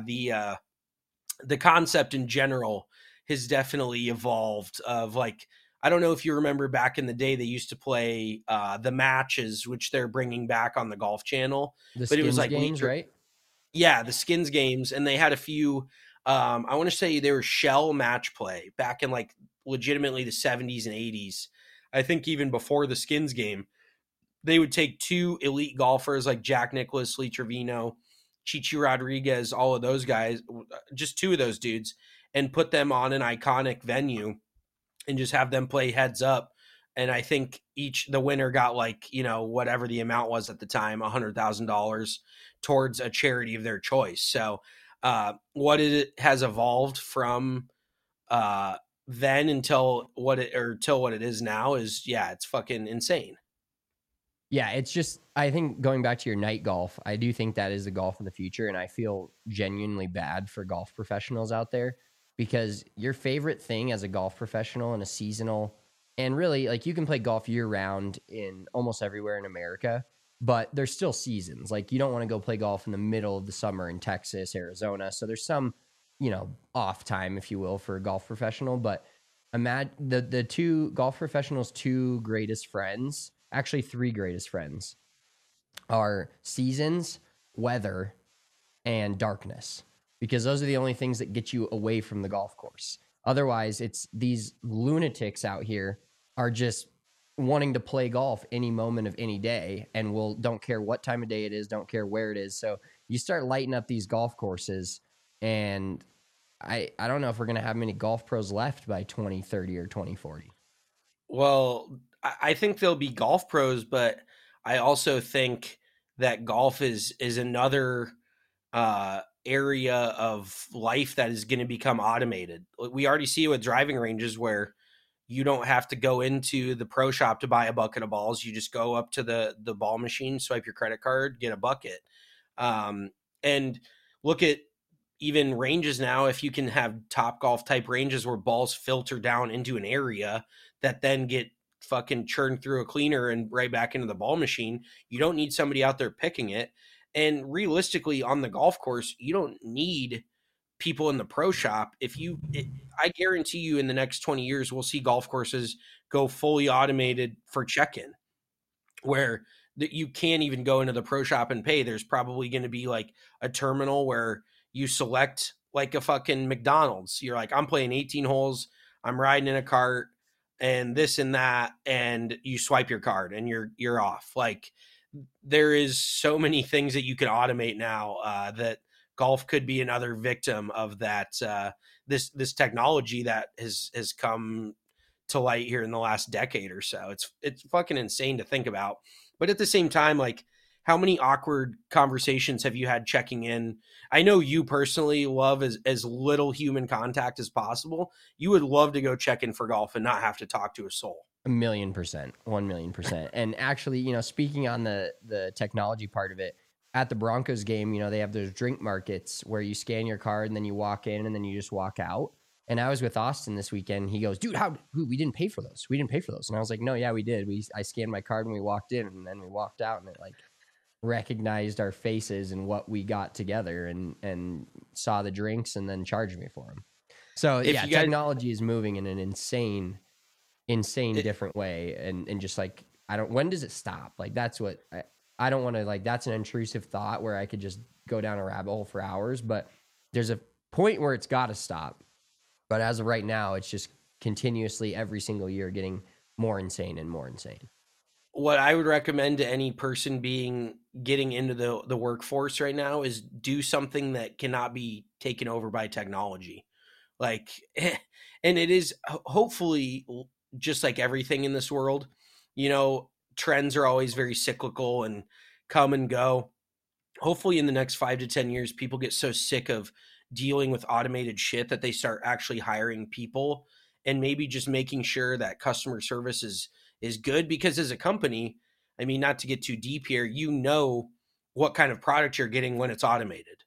the concept in general has definitely evolved. Of like, I don't know if you remember back in the day, they used to play the matches, which they're bringing back on the Golf Channel. But it was like games, right? Yeah, the skins games, and they had a few. I want to say they were shell match play back in like legitimately the 70s and 80s. I think even before the skins game, they would take 2 elite golfers like Jack Nicklaus, Lee Trevino, Chichi Rodriguez, all of those guys, just 2 of those dudes, and put them on an iconic venue and just have them play heads up. And I think the winner got like, whatever the amount was at the time, $100,000 towards a charity of their choice. So what it has evolved from then until what it is now is, yeah, it's fucking insane. Yeah, it's just, I think going back to your night golf, I do think that is the golf of the future. And I feel genuinely bad for golf professionals out there, because your favorite thing as a golf professional and a seasonal, and really, like, you can play golf year round in almost everywhere in America, but there's still seasons. Like, you don't want to go play golf in the middle of the summer in Texas, Arizona. So there's some, off time, if you will, for a golf professional. But imagine the 2 golf professionals' 2 greatest friends, actually 3 greatest friends, are seasons, weather, and darkness, because those are the only things that get you away from the golf course. Otherwise, it's these lunatics out here are just wanting to play golf any moment of any day, and don't care what time of day it is, don't care where it is. So you start lighting up these golf courses, and I don't know if we're going to have many golf pros left by 2030 or 2040. Well, I think there'll be golf pros, but I also think that golf is another area of life that is going to become automated. We already see it with driving ranges, where you don't have to go into the pro shop to buy a bucket of balls. You just go up to the ball machine, swipe your credit card, get a bucket. And look at even ranges now. If you can have Top Golf type ranges where balls filter down into an area that then get fucking churned through a cleaner and right back into the ball machine, you don't need somebody out there picking it. And realistically, on the golf course, you don't need people in the pro shop. I guarantee you in the next 20 years, we'll see golf courses go fully automated for check-in, where you can't even go into the pro shop and pay. There's probably going to be like a terminal where you select like a fucking McDonald's. You're like, I'm playing 18 holes, I'm riding in a cart and this and that, and you swipe your card and you're off. Like, there is so many things that you can automate now that golf could be another victim of that. This technology that has come to light here in the last decade or so. It's fucking insane to think about. But at the same time, like, how many awkward conversations have you had checking in? I know you personally love as little human contact as possible. You would love to go check in for golf and not have to talk to a soul. 1,000,000%, 1,000,000%. And actually, speaking on the technology part of it, at the Broncos game, you know, they have those drink markets where you scan your card and then you walk in and then you just walk out. And I was with Austin this weekend. He goes, dude, we didn't pay for those. We didn't pay for those. And I was like, no, yeah, we did. I scanned my card when we walked in, and then we walked out, and it like recognized our faces and what we got together, and saw the drinks and then charged me for them. So technology is moving in an insane different way. And just like, when does it stop? Like, that's what I don't want to, like, that's an intrusive thought where I could just go down a rabbit hole for hours, but there's a point where it's got to stop. But as of right now, it's just continuously every single year getting more insane and more insane. What I would recommend to any person getting into the workforce right now is do something that cannot be taken over by technology. Like, and it is hopefully just like everything in this world, you know, trends are always very cyclical and come and go. Hopefully in the next 5 to 10 years, people get so sick of dealing with automated shit that they start actually hiring people and maybe just making sure that customer service is good. Because as a company, I mean, not to get too deep here, you know what kind of product you're getting when it's automated.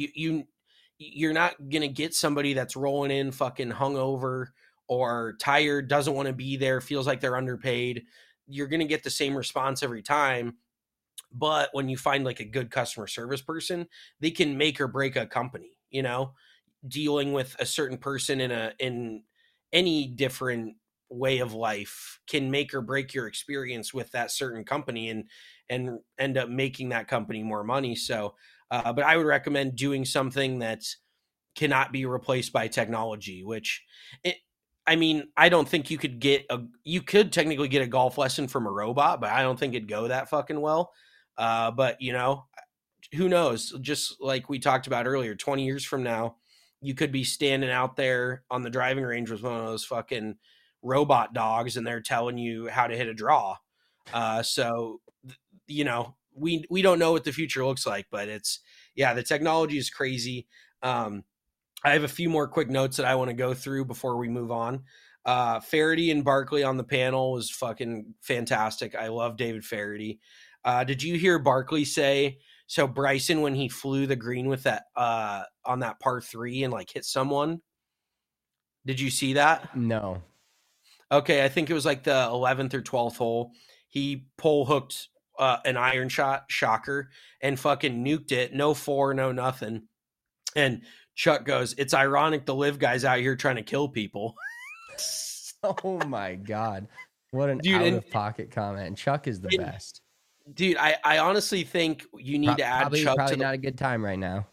You're not going to get somebody that's rolling in fucking hungover or tired, doesn't want to be there, feels like they're underpaid. You're going to get the same response every time. But when you find like a good customer service person, they can make or break a company, you know, dealing with a certain person in any different way of life can make or break your experience with that certain company and end up making that company more money. So, but I would recommend doing something that cannot be replaced by technology, I mean, I don't think you could technically get a golf lesson from a robot, but I don't think it'd go that fucking well. But you know, who knows? Just like we talked about earlier, 20 years from now, you could be standing out there on the driving range with one of those fucking robot dogs, and they're telling you how to hit a draw. So, you know, we don't know what the future looks like, but the technology is crazy. I have a few more quick notes that I want to go through before we move on. Faraday and Barkley on the panel was fucking fantastic. I love David Faraday. Did you hear Barkley say, so Bryson, when he flew the green with that, on that par 3 and like hit someone, did you see that? No. Okay. I think it was like the 11th or 12th hole. He pole hooked an iron shot, shocker, and fucking nuked it. No 4, no nothing. And Chuck goes, it's ironic the live guys out here trying to kill people. Oh my God. What an out-of-pocket comment. And Chuck is the best. Dude, I honestly think you need to add Chuck probably to not a good time right now.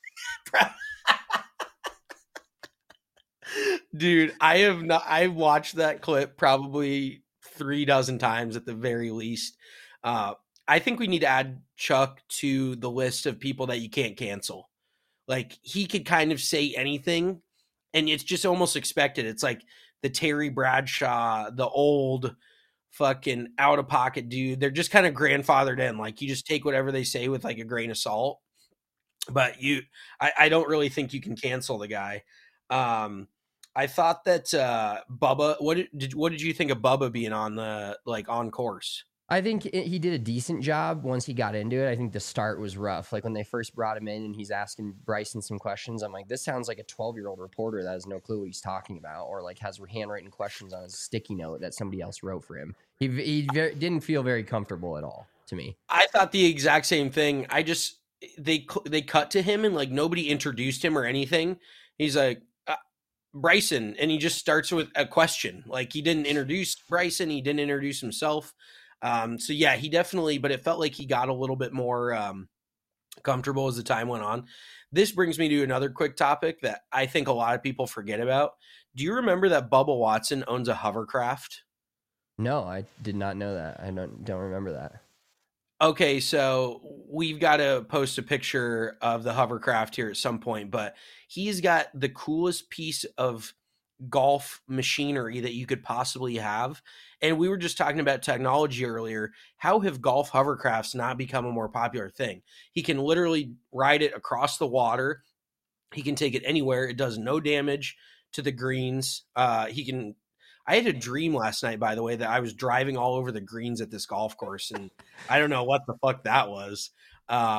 Dude, I've watched that clip probably 3 dozen times at the very least. I think we need to add Chuck to the list of people that you can't cancel. Like, he could kind of say anything, and it's just almost expected. It's like the Terry Bradshaw, the old fucking out-of-pocket dude. They're just kind of grandfathered in. Like, you just take whatever they say with like a grain of salt. But I don't really think you can cancel the guy. I thought that Bubba. What did you think of Bubba being on the on course? I think he did a decent job once he got into it. I think the start was rough. Like when they first brought him in and he's asking Bryson some questions, I'm like, this sounds like a 12-year-old reporter that has no clue what he's talking about, or like has handwritten questions on his sticky note that somebody else wrote for him. He didn't feel very comfortable at all to me. I thought the exact same thing. They cut to him and like nobody introduced him or anything. He's like, Bryson, and he just starts with a question. Like, he didn't introduce Bryson, he didn't introduce himself. So yeah, he definitely, but it felt like he got a little bit more comfortable as the time went on. This brings me to another quick topic that I think a lot of people forget about. Do you remember that Bubba Watson owns a hovercraft? No, I did not know that. I don't remember that. Okay, so we've got to post a picture of the hovercraft here at some point, but he's got the coolest piece of golf machinery that you could possibly have. And we were just talking about technology earlier. How have golf hovercrafts not become a more popular thing? He can literally ride it across the water. He can take it anywhere. It does no damage to the greens. I had a dream last night, by the way, that I was driving all over the greens at this golf course, and I don't know what the fuck that was.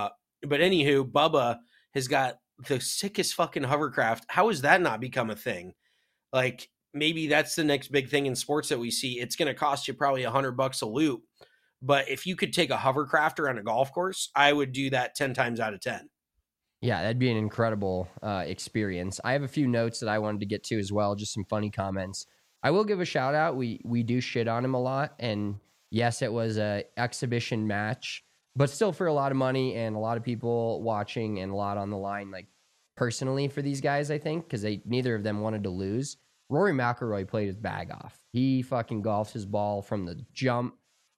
But anywho, Bubba has got the sickest fucking hovercraft. How has that not become a thing? Like, maybe that's the next big thing in sports that we see. It's going to cost you probably $100 a loop. But if you could take a hovercraft around a golf course, I would do that 10 times out of 10. Yeah, that'd be an incredible experience. I have a few notes that I wanted to get to as well, just some funny comments. I will give a shout out. We do shit on him a lot. And yes, it was a exhibition match, but still for a lot of money and a lot of people watching and a lot on the line, like personally for these guys, I think, because neither of them wanted to lose. Rory McIlroy played his bag off. He fucking golfed his ball from the jump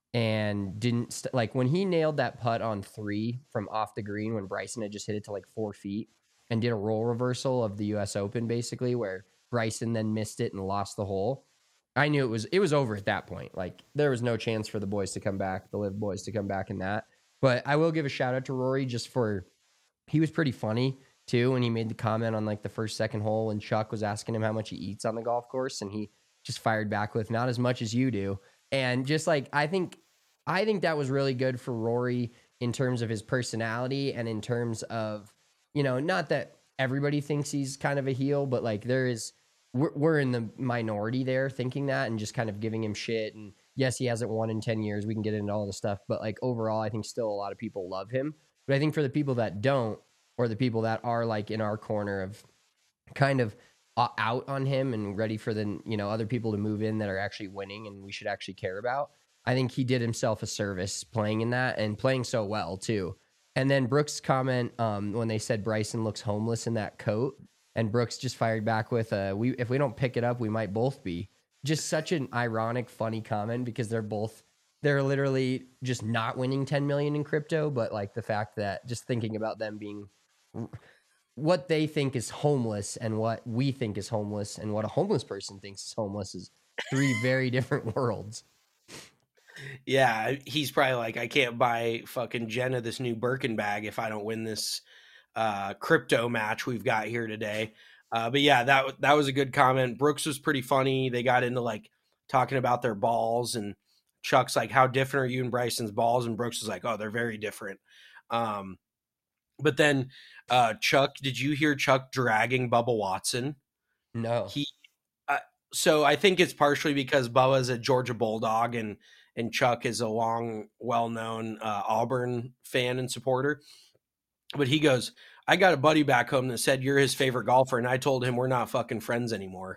and didn't like when he nailed that putt on 3 from off the green when Bryson had just hit it to like 4 feet and did a role reversal of the US Open, basically, where Bryson then missed it and lost the hole. I knew it was over at that point. Like, there was no chance for the boys to come back, the Live boys to come back in that. But I will give a shout out to Rory just for, he was pretty funny too when he made the comment on like the first, second hole and Chuck was asking him how much he eats on the golf course, and he just fired back with, not as much as you do. And just like, I think that was really good for Rory in terms of his personality and in terms of, not that everybody thinks he's kind of a heel, but like we're in the minority there thinking that and just kind of giving him shit. And yes, he hasn't won in 10 years. We can get into all the stuff, but like overall, I think still a lot of people love him. But I think for the people that don't, or the people that are like in our corner of kind of out on him and ready for the, other people to move in that are actually winning and we should actually care about, I think he did himself a service playing in that and playing so well too. And then Brooks' comment when they said Bryson looks homeless in that coat, and Brooks just fired back with, if we don't pick it up, we might both be. Just such an ironic, funny comment because they're literally just not winning 10 million in crypto. But like the fact that just thinking about them being what they think is homeless and what we think is homeless and what a homeless person thinks is homeless is 3 very different worlds. Yeah, he's probably like, I can't buy fucking Jenna this new Birkin bag if I don't win this crypto match we've got here today. But yeah, that was a good comment. Brooks was pretty funny. They got into like talking about their balls, and Chuck's like, how different are you and Bryson's balls? And Brooks was like, oh, they're very different. But then Chuck, did you hear Chuck dragging Bubba Watson? No. So I think it's partially because Bubba's a Georgia Bulldog and Chuck is a long, well-known Auburn fan and supporter. But he goes, I got a buddy back home that said you're his favorite golfer, and I told him we're not fucking friends anymore.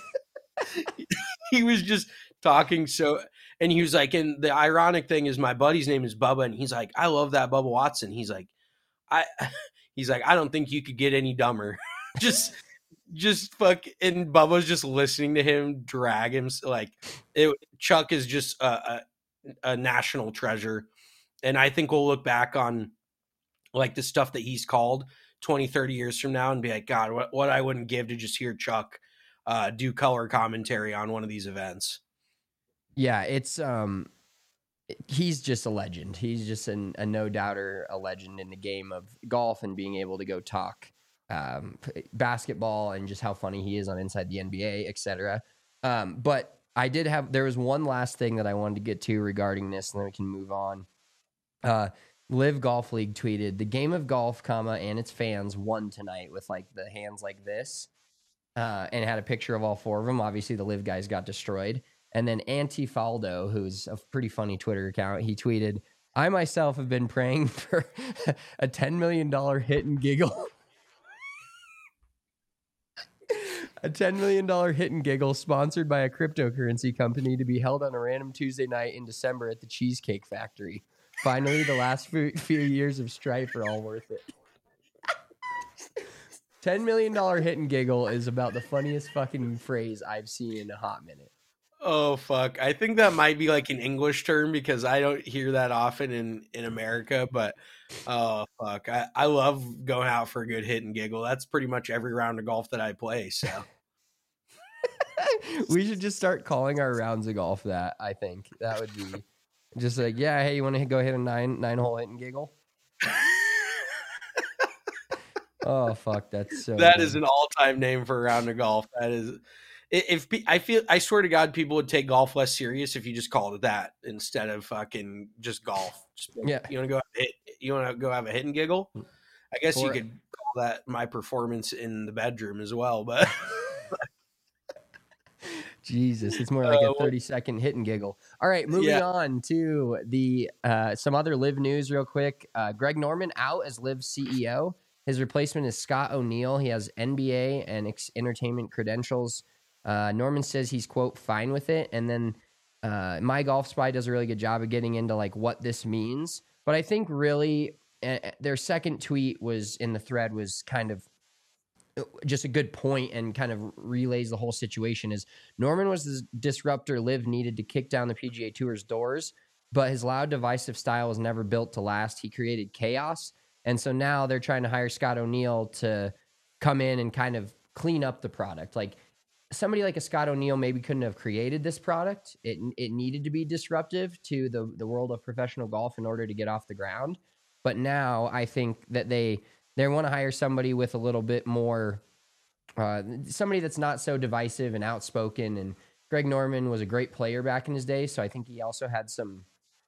He was just talking and he was like, and the ironic thing is my buddy's name is Bubba, and he's like, I love that Bubba Watson. He's like, I don't think you could get any dumber. just fuck. And Bubba's just listening to him drag him. Like Chuck is just a national treasure. And I think we'll look back on like the stuff that he's called 20, 30 years from now and be like, God, what I wouldn't give to just hear Chuck do color commentary on one of these events. Yeah, it's he's just a legend. He's just a no doubter, a legend in the game of golf and being able to go talk basketball and just how funny he is on Inside the NBA, etc. But there was one last thing that I wanted to get to regarding this, and then we can move on. Live Golf League tweeted, the game of golf, and its fans won tonight with like the hands like this, and had a picture of all 4 of them. Obviously, the Live guys got destroyed. And then Antifaldo, who's a pretty funny Twitter account, he tweeted, I myself have been praying for a $10 million hit and giggle. A $10 million hit and giggle sponsored by a cryptocurrency company to be held on a random Tuesday night in December at the Cheesecake Factory. Finally, the last few years of strife are all worth it. $10 million hit and giggle is about the funniest fucking phrase I've seen in a hot minute. Oh, fuck. I think that might be like an English term because I don't hear that often in America, but oh, fuck. I love going out for a good hit and giggle. That's pretty much every round of golf that I play, so. We should just start calling our rounds of golf that, I think. That would be just like, yeah, hey, you want to go hit a nine-hole hit and giggle? Oh, fuck, that's so That good. is an all-time name for a round of golf. That is... I swear to God, people would take golf less serious if you just called it that instead of fucking just golf. Yeah. You want to go have a hit and giggle? I guess you Or- could call that my performance in the bedroom as well, but Jesus, it's more like a 30-second hit and giggle. All right, moving on to the some other Live news real quick. Greg Norman out as Live CEO. His replacement is Scott O'Neill. He has NBA and entertainment credentials. Norman says he's, quote, fine with it. And then My Golf Spy does a really good job of getting into like what this means. But I think really their second tweet was in the thread was kind of just a good point and kind of relays the whole situation. Is Norman was the disruptor Liv needed to kick down the PGA Tour's doors, but his loud, divisive style was never built to last. He created chaos. And so now they're trying to hire Scott O'Neill to come in and kind of clean up the product. Like somebody like a Scott O'Neill maybe couldn't have created this product. It needed to be disruptive to the world of professional golf in order to get off the ground. But now I think that they want to hire somebody with a little bit more, somebody that's not so divisive and outspoken. And Greg Norman was a great player back in his day. So I think he also had some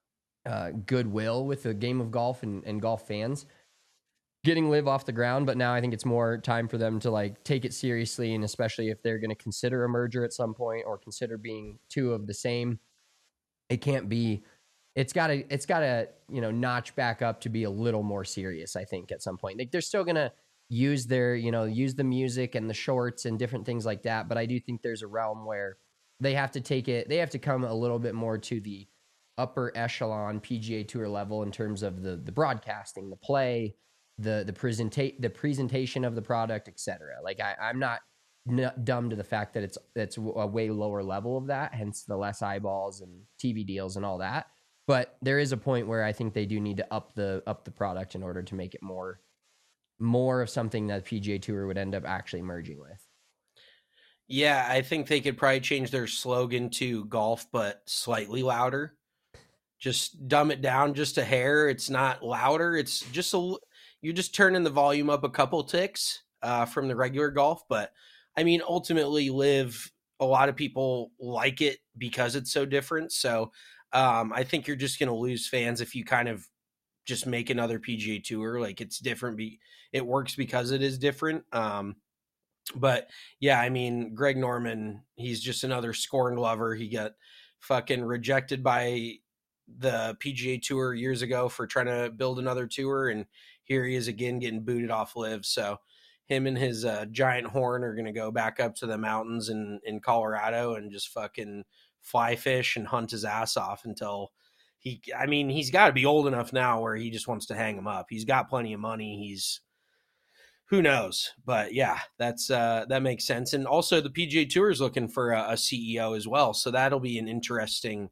goodwill with the game of golf and golf fans getting Live off the ground. But now I think it's more time for them to like take it seriously. And especially if they're going to consider a merger at some point or consider being two of the same, it can't be, it's gotta, notch back up to be a little more serious, I think, at some point. Like they're still going to use use the music and the shorts and different things like that. But I do think there's a realm where they have to come a little bit more to the upper echelon PGA Tour level in terms of the broadcasting, the play, the presentation of the product, etc. Like I'm not dumb to the fact that it's a way lower level of that, hence the less eyeballs and TV deals and all that. But there is a point where I think they do need to up the product in order to make it more of something that PGA Tour would end up actually merging with. Yeah, I think they could probably change their slogan to golf, but slightly louder. Just dumb it down just a hair. It's not louder. It's just you're just turning the volume up a couple ticks from the regular golf. But I mean, ultimately, Live, a lot of people like it because it's so different. So I think you're just going to lose fans if you kind of just make another PGA Tour. Like it's different. It works because it is different. But yeah, I mean, Greg Norman, he's just another scorned lover. He got fucking rejected by the PGA Tour years ago for trying to build another tour. And here he is again getting booted off Live. So him and his giant horn are going to go back up to the mountains in Colorado and just fucking fly fish and hunt his ass off until he's got to be old enough now where he just wants to hang him up. He's got plenty of money. Who knows? But yeah, that makes sense. And also the PGA Tour is looking for a CEO as well. So that'll be an interesting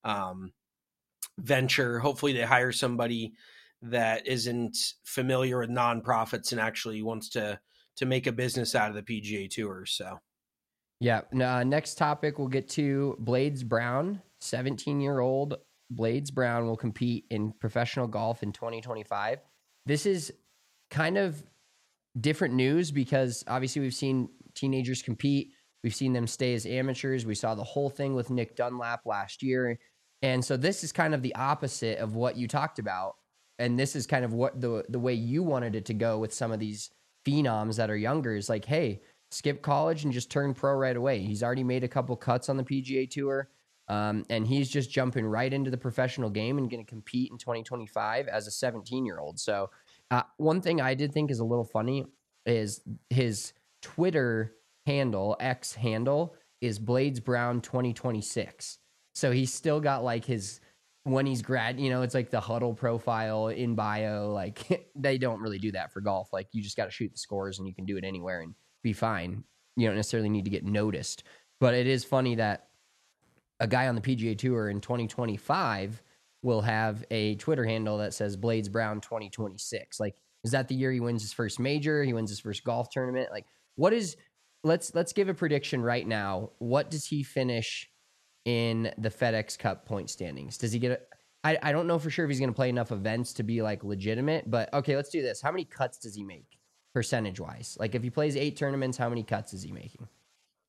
venture. Hopefully they hire somebody that isn't familiar with nonprofits and actually wants to make a business out of the PGA Tour. So yeah. Next topic, we'll get to Blades Brown. 17-year-old Blades Brown will compete in professional golf in 2025. This is kind of different news because obviously we've seen teenagers compete. We've seen them stay as amateurs. We saw the whole thing with Nick Dunlap last year. And so this is kind of the opposite of what you talked about. And this is kind of what the way you wanted it to go with some of these phenoms that are younger is like, hey, skip college and just turn pro right away. He's already made a couple cuts on the PGA Tour. And he's just jumping right into the professional game and going to compete in 2025 as a 17-year-old. So one thing I did think is a little funny is his Twitter handle, X handle, is Blades Brown 2026. So he's still got like his, when he's it's like the huddle profile in bio. Like they don't really do that for golf. Like you just got to shoot the scores and you can do it anywhere and be fine. You don't necessarily need to get noticed. But it is funny that a guy on the PGA Tour in 2025 will have a Twitter handle that says Blades Brown 2026. Like, is that the year he wins his first major? He wins his first golf tournament? Like, let's give a prediction right now. What does he finish in the FedEx Cup point standings? Does he get I don't know for sure if he's going to play enough events to be like legitimate, but okay, let's do this. How many cuts does he make percentage wise? Like if he plays 8 tournaments, how many cuts is he making?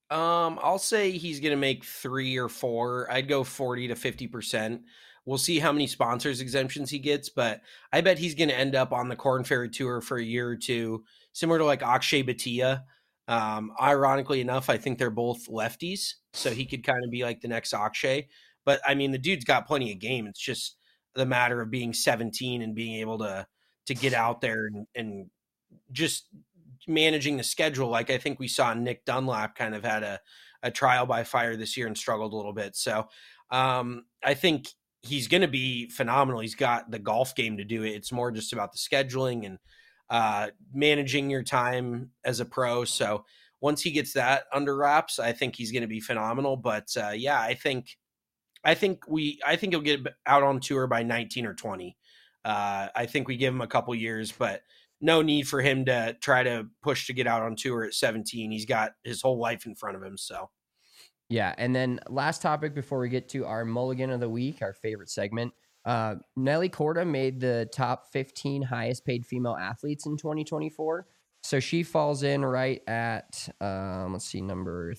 I'll say he's going to make 3 or 4. I'd go 40 to 50%. We'll see how many sponsors exemptions he gets, but I bet he's going to end up on the Corn Ferry Tour for a year or two, similar to like Akshay Bhatia. Ironically enough, I think they're both lefties, so he could kind of be like the next Akshay. But I mean, the dude's got plenty of game. It's just the matter of being 17 and being able to get out there and just managing the schedule. Like I think we saw Nick Dunlap kind of had a trial by fire this year and struggled a little bit. So I think he's going to be phenomenal. He's got the golf game to do it. It's more just about the scheduling and managing your time as a pro. So once he gets that under wraps, I think he's going to be phenomenal. But yeah, I think he'll get out on tour by 19 or 20. I think we give him a couple years, but no need for him to try to push to get out on tour at 17. He's got his whole life in front of him. So, yeah. And then last topic before we get to our mulligan of the week, our favorite segment. Nelly Korda made the top 15 highest paid female athletes in 2024. So she falls in right at, let's see, number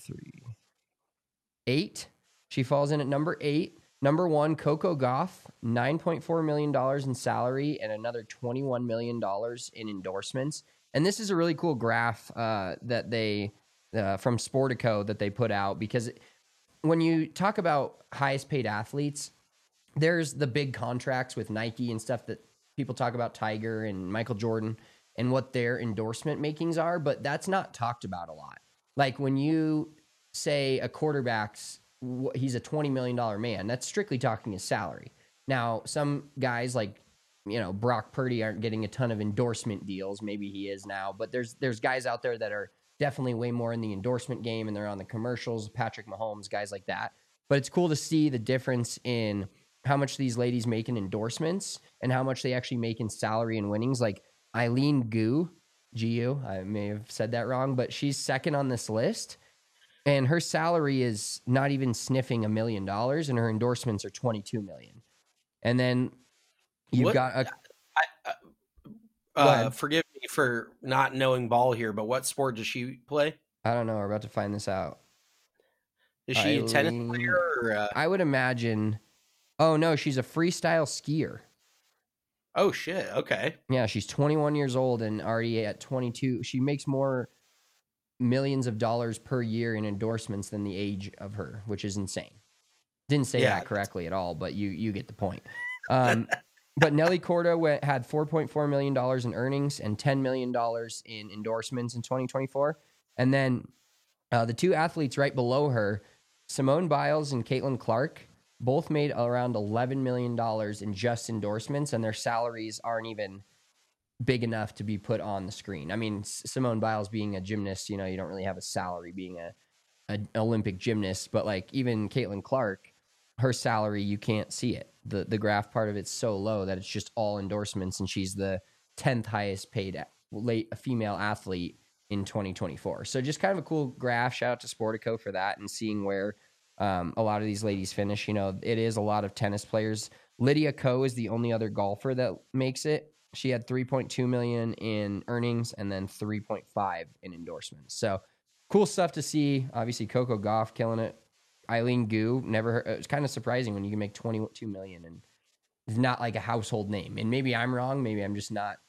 8. She falls in at number 8. Number 1, Coco Gauff, $9.4 million in salary and another $21 million in endorsements. And this is a really cool graph that they from Sportico that they put out, because when you talk about highest paid athletes, there's the big contracts with Nike and stuff that people talk about, Tiger and Michael Jordan and what their endorsement makings are, but that's not talked about a lot. Like when you say a quarterback's, he's a $20 million man, that's strictly talking his salary. Now, some guys like, Brock Purdy aren't getting a ton of endorsement deals. Maybe he is now, but there's guys out there that are definitely way more in the endorsement game and they're on the commercials, Patrick Mahomes, guys like that. But it's cool to see the difference in how much these ladies make in endorsements and how much they actually make in salary and winnings. Like Eileen Gu, I may have said that wrong, but she's second on this list. And her salary is not even sniffing $1 million, and her endorsements are $22 million. And then you've got forgive me for not knowing ball here, but what sport does she play? I don't know. We're about to find this out. Is she a tennis player? Or I would imagine. Oh, no, she's a freestyle skier. Oh, shit. Okay. Yeah, she's 21 years old and already at 22. She makes more millions of dollars per year in endorsements than the age of her, which is insane. Didn't say that correctly at all, but you get the point. But Nelly Korda had $4.4 million in earnings and $10 million in endorsements in 2024. And then the two athletes right below her, Simone Biles and Caitlin Clark, both made around $11 million in just endorsements, and their salaries aren't even big enough to be put on the screen. I mean, Simone Biles being a gymnast, you don't really have a salary being an Olympic gymnast, but like even Caitlin Clark, her salary, you can't see it. The graph part of it's so low that it's just all endorsements, and she's the 10th highest paid female athlete in 2024. So just kind of a cool graph. Shout out to Sportico for that and seeing where a lot of these ladies finish. It is a lot of tennis players. Lydia Ko is the only other golfer that makes it. She had 3.2 million in earnings and then 3.5 in endorsements. So cool stuff to see. Obviously, Coco Gauff killing it. Eileen Gu, never heard. It was kind of surprising when you can make 22 million and it's not like a household name. And maybe I'm wrong. Maybe I'm just not.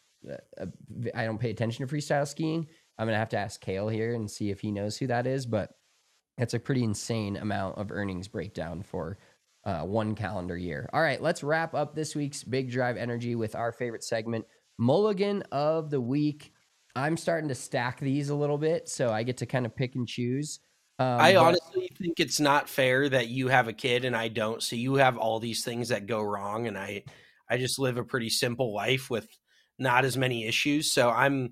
I don't pay attention to freestyle skiing. I'm gonna have to ask Kale here and see if he knows who that is. But that's a pretty insane amount of earnings breakdown for one calendar year. All right, let's wrap up this week's Big Drive Energy with our favorite segment, Mulligan of the Week. I'm starting to stack these a little bit, so I get to kind of pick and choose. I honestly think it's not fair that you have a kid and I don't. So you have all these things that go wrong, and I just live a pretty simple life with not as many issues. So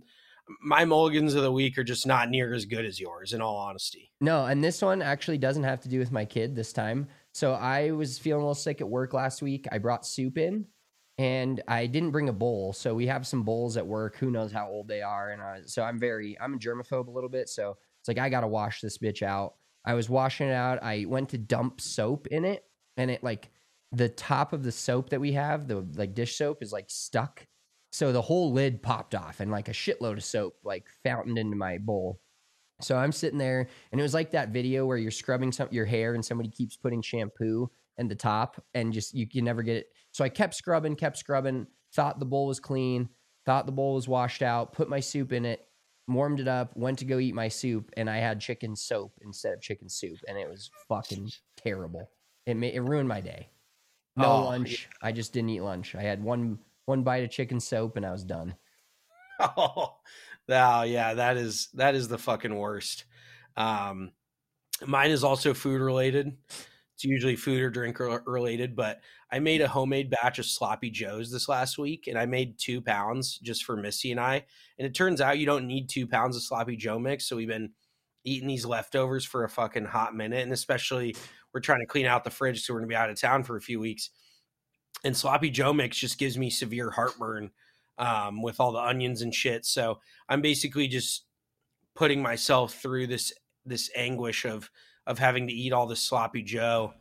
my mulligans of the week are just not near as good as yours, in all honesty. No, and this one actually doesn't have to do with my kid this time. So I was feeling a little sick at work last week. I brought soup in, and I didn't bring a bowl. So we have some bowls at work. Who knows how old they are? And so I'm a germaphobe a little bit. So it's like, I got to wash this bitch out. I was washing it out. I went to dump soap in it, and it like the top of the soap that we have, the like dish soap, is like stuck. So the whole lid popped off, and like a shitload of soap like fountained into my bowl. So I'm sitting there, and it was like that video where you're scrubbing your hair and somebody keeps putting shampoo in the top, and just you can never get it. So I kept scrubbing, thought the bowl was clean, thought the bowl was washed out, put my soup in it, warmed it up, went to go eat my soup, and I had chicken soap instead of chicken soup, and it was fucking terrible. It ruined my day. No lunch. Yeah. I just didn't eat lunch. I had one bite of chicken soap, and I was done. Oh, yeah, that is the fucking worst. Mine is also food related. It's usually food or drink related, but I made a homemade batch of sloppy joes this last week, and I made 2 pounds just for Missy and I. And it turns out you don't need 2 pounds of sloppy joe mix. So we've been eating these leftovers for a fucking hot minute. And especially we're trying to clean out the fridge, so we're going to be out of town for a few weeks. And sloppy joe mix just gives me severe heartburn with all the onions and shit. So I'm basically just putting myself through this anguish of having to eat all this sloppy joe.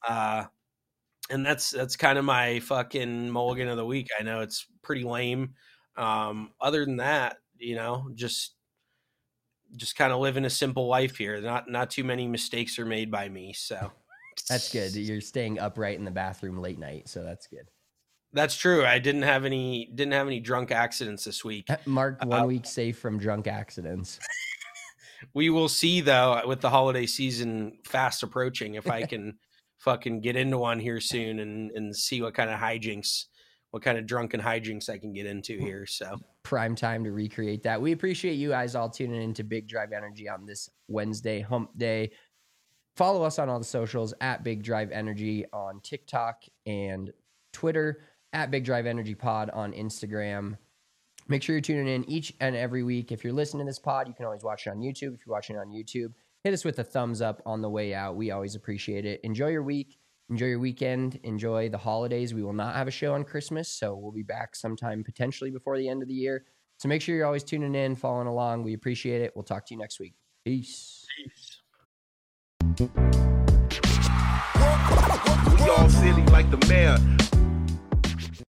And that's kind of my fucking mulligan of the week. I know it's pretty lame. Other than that, just kind of living a simple life here. Not too many mistakes are made by me. So that's good. You're staying upright in the bathroom late night. So that's good. That's true. I didn't have any drunk accidents this week. Mark 1 week safe from drunk accidents. We will see, though, with the holiday season fast approaching, if I can fucking get into one here soon and see what kind of drunken hijinks I can get into here. So prime time to recreate that. We appreciate you guys all tuning in to Big Drive Energy on this Wednesday hump day. Follow us on all the socials at Big Drive Energy on TikTok and Twitter, at Big Drive Energy Pod on Instagram. Make sure you're tuning in each and every week. If you're listening to this pod, you can always watch it on YouTube. If you're watching it on YouTube, hit us with a thumbs up on the way out. We always appreciate it. Enjoy your week. Enjoy your weekend. Enjoy the holidays. We will not have a show on Christmas, so we'll be back sometime potentially before the end of the year. So make sure you're always tuning in, following along. We appreciate it. We'll talk to you next week. Peace. We all silly like the mayor.